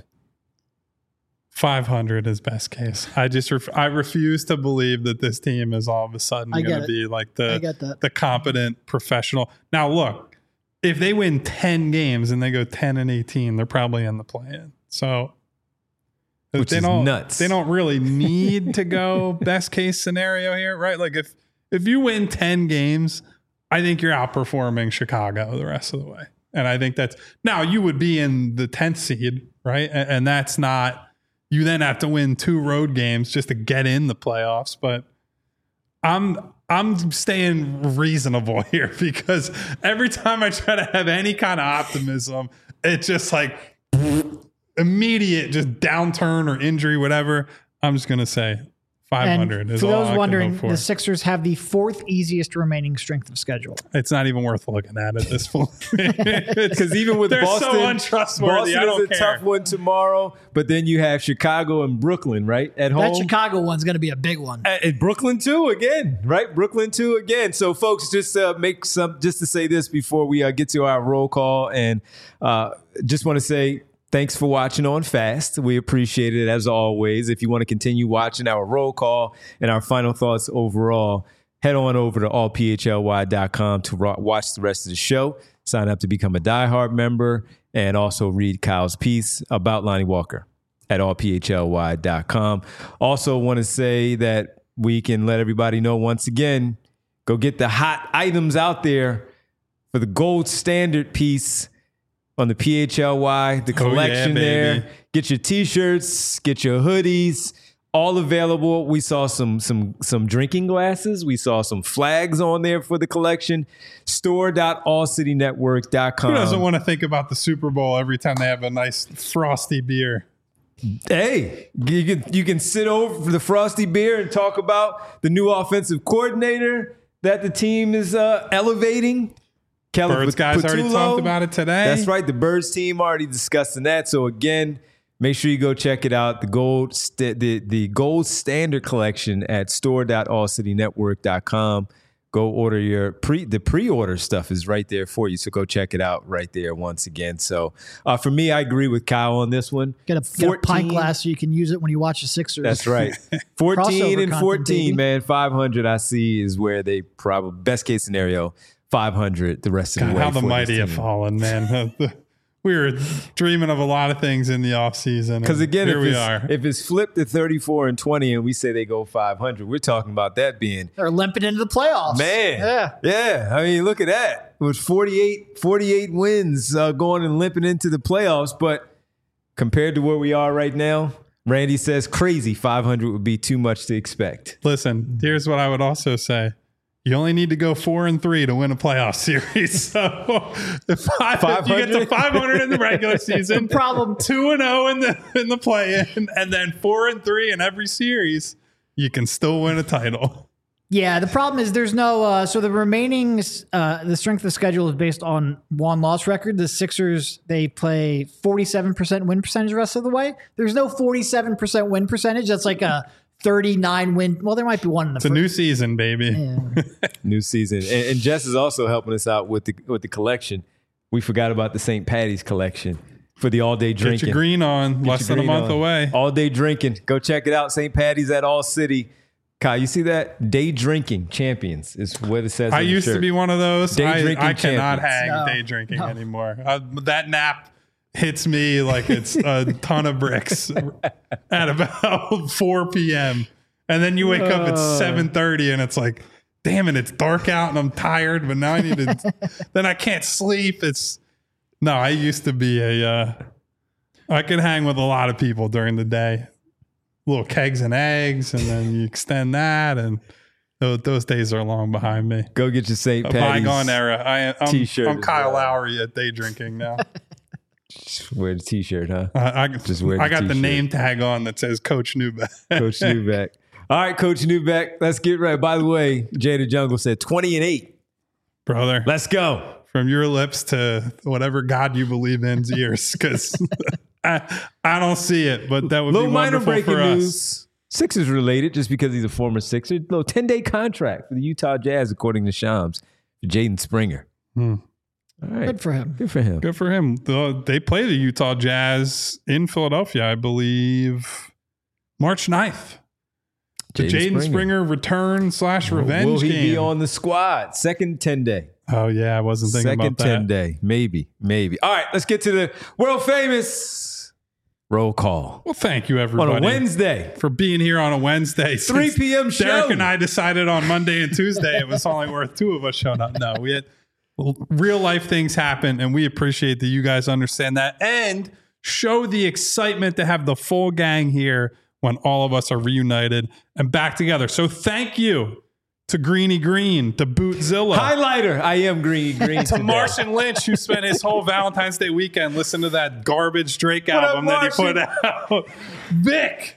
Speaker 2: five hundred is best case. I just ref- I refuse to believe that this team is all of a sudden
Speaker 3: I get
Speaker 2: going to
Speaker 3: it.
Speaker 2: be like
Speaker 3: I
Speaker 2: the
Speaker 3: get that.
Speaker 2: the competent professional. Now look, if they win ten games and they go ten and eighteen, they're probably in the play-in. So
Speaker 1: Which
Speaker 2: they
Speaker 1: is
Speaker 2: don't,
Speaker 1: nuts.
Speaker 2: They don't really need to go best case scenario here, right? Like if if you win ten games, I think you're outperforming Chicago the rest of the way. And I think that's now you would be in the tenth seed, right? And, and that's not. You then have to win two road games just to get in the playoffs. But I'm I'm staying reasonable here because every time I try to have any kind of optimism, it's just like immediate just downturn or injury, whatever. I'm just gonna say five hundred
Speaker 3: And
Speaker 2: is
Speaker 3: for
Speaker 2: all
Speaker 3: those
Speaker 2: I can
Speaker 3: wondering,
Speaker 2: hope for.
Speaker 3: the Sixers have the fourth easiest remaining strength of schedule.
Speaker 2: It's not even worth looking at at this point.
Speaker 1: Because even with
Speaker 2: They're
Speaker 1: Boston,
Speaker 2: so untrustworthy.
Speaker 1: Boston
Speaker 2: I don't
Speaker 1: is a
Speaker 2: care.
Speaker 1: tough one tomorrow, but then you have Chicago and Brooklyn, right? At home.
Speaker 3: That Chicago one's going to be a big one.
Speaker 1: Uh, and Brooklyn too again, right? Brooklyn too again. So, folks, just uh, make some just to say this before we uh, get to our roll call, and uh, just want to say thanks for watching on Fast. We appreciate it as always. If you want to continue watching our roll call and our final thoughts overall, head on over to all p h l y dot com to ro- watch the rest of the show. Sign up to become a diehard member, and also read Kyle's piece about Lonnie Walker at all p h l y dot com. Also want to say that we can let everybody know once again, go get the hot items out there for the gold standard piece on the P H L Y, the collection
Speaker 2: oh, yeah,
Speaker 1: there.
Speaker 2: baby.
Speaker 1: Get your t-shirts, get your hoodies, all available. We saw some some some drinking glasses. We saw some flags on there for the collection. store dot all city network dot com.
Speaker 2: Who doesn't want to think about the Super Bowl every time they have a nice frosty beer?
Speaker 1: Hey, you can you can sit over for the frosty beer and talk about the new offensive coordinator that the team is uh, elevating. Kelly
Speaker 2: Birds guys already
Speaker 1: Patullo.
Speaker 2: talked about it today.
Speaker 1: That's right. The Birds team already discussing that. So again, make sure you go check it out. The gold st- the the gold standard collection at store dot all city network dot com. Go order your pre the pre-order stuff is right there for you. So go check it out right there once again. So uh, for me, I agree with Kyle on this one.
Speaker 3: Get a, get a pint glass so you can use it when you watch the Sixers.
Speaker 1: That's right. fourteen
Speaker 3: Crossover
Speaker 1: and
Speaker 3: content,
Speaker 1: fourteen,
Speaker 3: baby.
Speaker 1: man. five hundred I see is where they probably, best case scenario, five hundred the rest of
Speaker 2: God,
Speaker 1: the way.
Speaker 2: how the
Speaker 1: for this
Speaker 2: mighty have
Speaker 1: team.
Speaker 2: fallen, man. We were dreaming of a lot of things in the offseason.
Speaker 1: Because again,
Speaker 2: here
Speaker 1: if
Speaker 2: we
Speaker 1: it's,
Speaker 2: are.
Speaker 1: if it's flipped to thirty-four and twenty and we say they go five hundred, we're talking about that being,
Speaker 3: They're limping into the playoffs.
Speaker 1: man.
Speaker 3: Yeah.
Speaker 1: Yeah. I mean, look at that. It was forty-eight, forty-eight wins uh, going and limping into the playoffs. But compared to where we are right now, Randy says crazy. five hundred would be too much to expect.
Speaker 2: Listen, here's what I would also say. You only need to go four and three to win a playoff series. So if, five, if you get to five hundred in the regular season,
Speaker 3: problem
Speaker 2: two and zero in the in the play-in, and then four and three in every series, you can still win a title.
Speaker 3: Yeah, the problem is there's no uh, so the remaining uh, the strength of schedule is based on one loss record. The Sixers, they play forty-seven percent win percentage the rest of the way. There's no forty-seven percent win percentage. That's like a thirty-nine win. Well, there might be one in the
Speaker 2: It's a
Speaker 3: first.
Speaker 2: new season, baby.
Speaker 3: Yeah.
Speaker 1: New season. And, and Jess is also helping us out with the with the collection. We forgot about the Saint Patty's collection for the all day
Speaker 2: Get
Speaker 1: drinking.
Speaker 2: your green on,
Speaker 1: Get
Speaker 2: less
Speaker 1: your
Speaker 2: than a
Speaker 1: green
Speaker 2: month
Speaker 1: on.
Speaker 2: away.
Speaker 1: All day drinking. Go check it out. Saint Patty's at All City. Kyle, you see that? Day drinking champions is what it says.
Speaker 2: I
Speaker 1: on the
Speaker 2: used to
Speaker 1: shirt.
Speaker 2: be one of those.
Speaker 1: Day
Speaker 2: I,
Speaker 1: drinking
Speaker 2: I cannot
Speaker 1: champions.
Speaker 2: hang
Speaker 3: No,
Speaker 2: day drinking
Speaker 3: no.
Speaker 2: anymore. Uh, that nap hits me like it's a ton of bricks at about four p.m. And then you wake up at seven thirty and it's like, damn it, it's dark out and I'm tired, but now I need to, then I can't sleep. It's, no, I used to be a, uh, I could hang with a lot of people during the day. Little kegs and eggs, and then you extend that, and those, those days are long behind me.
Speaker 1: Go get your Saint
Speaker 2: A
Speaker 1: Patty's
Speaker 2: bygone era. I, I'm,
Speaker 1: t-shirt
Speaker 2: I'm
Speaker 1: as
Speaker 2: Kyle
Speaker 1: well.
Speaker 2: Lowry at day drinking now.
Speaker 1: Wear the t-shirt, huh?
Speaker 2: I, I,
Speaker 1: Just wear
Speaker 2: I
Speaker 1: the
Speaker 2: got the
Speaker 1: t-shirt.
Speaker 2: name tag on that says Coach Newbeck.
Speaker 1: Coach Newbeck. All right, Coach Newbeck. Let's get right. By the way, Jada Jungle said twenty and eight.
Speaker 2: Brother,
Speaker 1: Let's go.
Speaker 2: from your lips to whatever God you believe in's ears, because I, I don't see it, but that would
Speaker 1: Little
Speaker 2: be
Speaker 1: minor
Speaker 2: wonderful
Speaker 1: breaking
Speaker 2: for us.
Speaker 1: news. Sixers related, just because he's a former Sixer. Little ten-day contract for the Utah Jazz, according to Shams, for Jaden Springer.
Speaker 2: Hmm.
Speaker 1: All right.
Speaker 3: Good for him.
Speaker 1: Good for him.
Speaker 2: Good for him. The- They play the Utah Jazz in Philadelphia, I believe, March ninth. The Jaden Springer return slash revenge
Speaker 1: Will he
Speaker 2: game.
Speaker 1: be on the squad? Second ten-day.
Speaker 2: Oh, yeah. I wasn't thinking
Speaker 1: Second
Speaker 2: about that.
Speaker 1: ten-day. Maybe. Maybe. All right, let's get to the world famous roll call.
Speaker 2: Well, thank you,
Speaker 1: On
Speaker 2: everybody.
Speaker 1: a Wednesday.
Speaker 2: For being here on a Wednesday.
Speaker 1: three
Speaker 2: Since
Speaker 1: p.m. show.
Speaker 2: Derek and I decided on Monday and Tuesday it was only worth two of us showing up. No, we had well, real life things happen, and we appreciate that you guys understand that and show the excitement to have the full gang here when all of us are reunited and back together. So thank you to Greeny Green, to Bootzilla,
Speaker 1: Highlighter. I am green. Green
Speaker 2: to
Speaker 1: today.
Speaker 2: Martian Lynch, who spent his whole Valentine's Day weekend listening to that garbage Drake
Speaker 1: What up,
Speaker 2: album that he put
Speaker 1: Martian?
Speaker 2: out. Vic,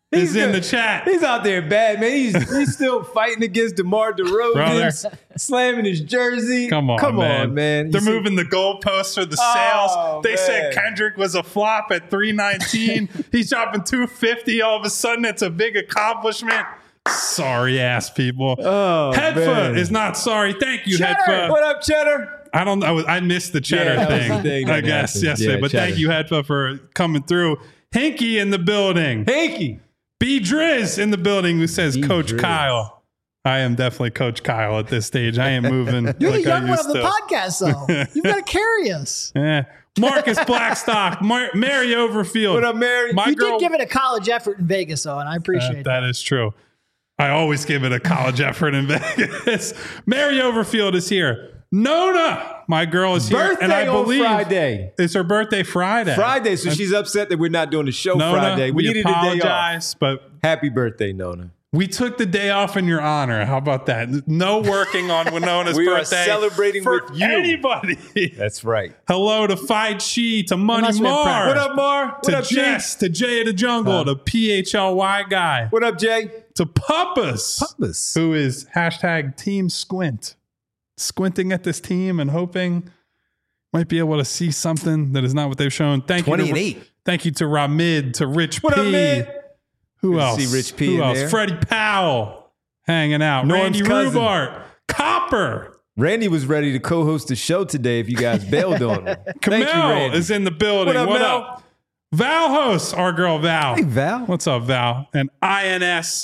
Speaker 2: is in
Speaker 1: good.
Speaker 2: the chat.
Speaker 1: He's out there bad, man. He's he's still fighting against DeMar DeRozan, slamming his jersey.
Speaker 2: Come on,
Speaker 1: Come
Speaker 2: man.
Speaker 1: on, man.
Speaker 2: They're
Speaker 1: You see-
Speaker 2: moving the goalposts for the
Speaker 1: Oh,
Speaker 2: sales. They
Speaker 1: man.
Speaker 2: said Kendrick was a flop at three nineteen. He's dropping two fifty. All of a sudden, it's a big accomplishment. Sorry ass people.
Speaker 1: Oh,
Speaker 2: Headfoot
Speaker 1: man.
Speaker 2: is not sorry. Thank you,
Speaker 3: Cheddar!
Speaker 2: Headfoot.
Speaker 1: What up, Cheddar?
Speaker 2: I don't know. I missed the cheddar
Speaker 1: Yeah, that was
Speaker 2: thing,
Speaker 1: the thing
Speaker 2: I
Speaker 1: that
Speaker 2: guess,
Speaker 1: happened.
Speaker 2: yesterday.
Speaker 1: Yeah,
Speaker 2: but
Speaker 1: cheddar.
Speaker 2: thank you, Headfoot, for coming through. Hinky in the building.
Speaker 1: Hanky.
Speaker 2: B Driz in the building who says
Speaker 1: B
Speaker 2: Coach
Speaker 1: Driz.
Speaker 2: Kyle. I am definitely Coach Kyle at this stage. I ain't moving
Speaker 3: You're
Speaker 2: like
Speaker 3: the young
Speaker 2: I
Speaker 3: one
Speaker 2: used
Speaker 3: of the
Speaker 2: to.
Speaker 3: podcast, though. You've got to carry us.
Speaker 2: Eh. Marcus Blackstock, Mar- Mary Overfield.
Speaker 1: What up, Mary?
Speaker 2: My
Speaker 3: You
Speaker 2: girl,
Speaker 3: did give it a college effort in Vegas, though, and I
Speaker 2: Uh,
Speaker 3: appreciate
Speaker 2: that is true. I always give it a college effort in Vegas. Mary Overfield is here. Nona, my girl, is here.
Speaker 1: Birthday
Speaker 2: and I
Speaker 1: on
Speaker 2: believe
Speaker 1: Friday.
Speaker 2: it's her birthday Friday.
Speaker 1: Friday, so she's upset that we're not doing the show
Speaker 2: Nona,
Speaker 1: Friday. We,
Speaker 2: we
Speaker 1: needed a day off.
Speaker 2: apologize, but
Speaker 1: Happy birthday, Nona.
Speaker 2: we took the day off in your honor. How about that? No working on Winona's
Speaker 1: We are
Speaker 2: birthday.
Speaker 1: celebrating
Speaker 2: for
Speaker 1: with you.
Speaker 2: anybody.
Speaker 1: That's right.
Speaker 2: Hello to Fight Chi, to Money
Speaker 3: must have been
Speaker 2: Mar,
Speaker 3: practice.
Speaker 1: What up, Mar? What
Speaker 2: to
Speaker 1: up, Jay?
Speaker 2: Jess, to Jay of the Jungle, to P H L Y guy,
Speaker 1: What up, Jay?
Speaker 2: to Puppas,
Speaker 1: Puppas.
Speaker 2: who is hashtag Team Squint, squinting at this team and hoping might be able to see something that is not what they've shown. Thank
Speaker 1: twenty
Speaker 2: you,
Speaker 1: and
Speaker 2: to,
Speaker 1: eight.
Speaker 2: Thank you to Ramid, to Rich
Speaker 1: What
Speaker 2: P.
Speaker 1: up, man?
Speaker 2: Who
Speaker 1: Good to
Speaker 2: else?
Speaker 1: see Rich P
Speaker 2: Who
Speaker 1: in
Speaker 2: else?
Speaker 1: there.
Speaker 2: Freddie Powell hanging out.
Speaker 1: Norm's
Speaker 2: Randy
Speaker 1: cousin.
Speaker 2: Rubart, Copper.
Speaker 1: Randy was ready to co-host the show today if you guys bailed on him. Thank you,
Speaker 2: Kamel
Speaker 1: Randy.
Speaker 2: is in the building.
Speaker 1: What up, Mel?
Speaker 2: up? Val hosts, our girl Val.
Speaker 1: Hey, Val.
Speaker 2: What's up, Val? And I N S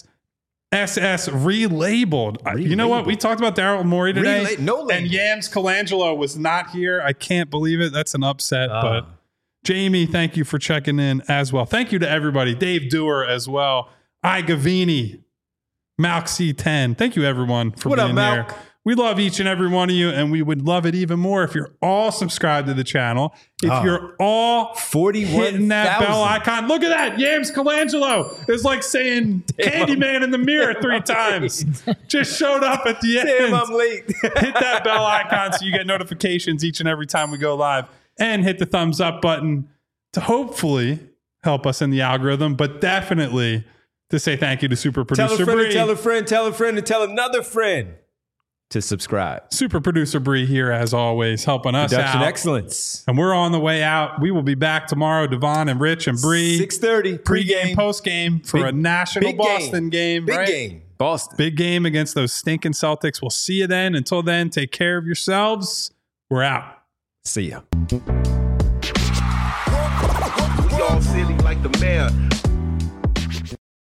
Speaker 2: S S relabeled. Uh, You know what? We talked about Daryl Morey today.
Speaker 1: Rela- no label.
Speaker 2: and Yams Colangelo was not here. I can't believe it. That's an upset.
Speaker 1: Ah.
Speaker 2: But Jamie, thank you for checking in as well. Thank you to everybody. Dave Dewar as well. I Gavini. Malk C ten. Thank you, everyone, for
Speaker 1: What up,
Speaker 2: being
Speaker 1: Malk?
Speaker 2: here. We love each and every one of you, and we would love it even more if you're all subscribed to the channel. If
Speaker 1: Ah.
Speaker 2: you're all
Speaker 1: forty-one
Speaker 2: hitting that bell
Speaker 1: thousand.
Speaker 2: icon. Look at that. Yams Colangelo is like saying Candyman in the mirror three times. Just showed up at the end.
Speaker 1: Damn, I'm late.
Speaker 2: Hit that bell icon so you get notifications each and every time we go live. And hit the thumbs up button to hopefully help us in the algorithm, but definitely to say thank you to super
Speaker 1: Tell
Speaker 2: producer
Speaker 1: a friend,
Speaker 2: Bree.
Speaker 1: to tell a friend, tell a friend, and tell another friend to subscribe.
Speaker 2: Super producer Bree here as always, helping us
Speaker 1: Production
Speaker 2: out.
Speaker 1: excellence.
Speaker 2: And we're on the way out. We will be back tomorrow. Devon and Rich and Bree.
Speaker 1: six thirty
Speaker 2: Pre-game,
Speaker 1: pregame.
Speaker 2: post-game for
Speaker 1: Big-
Speaker 2: a national
Speaker 1: big
Speaker 2: Boston game.
Speaker 1: Big
Speaker 2: right?
Speaker 1: game. Boston.
Speaker 2: Big game against those stinking Celtics. We'll see you then. Until then, take care of yourselves. We're out.
Speaker 1: See ya.
Speaker 4: Y'all silly like the mayor.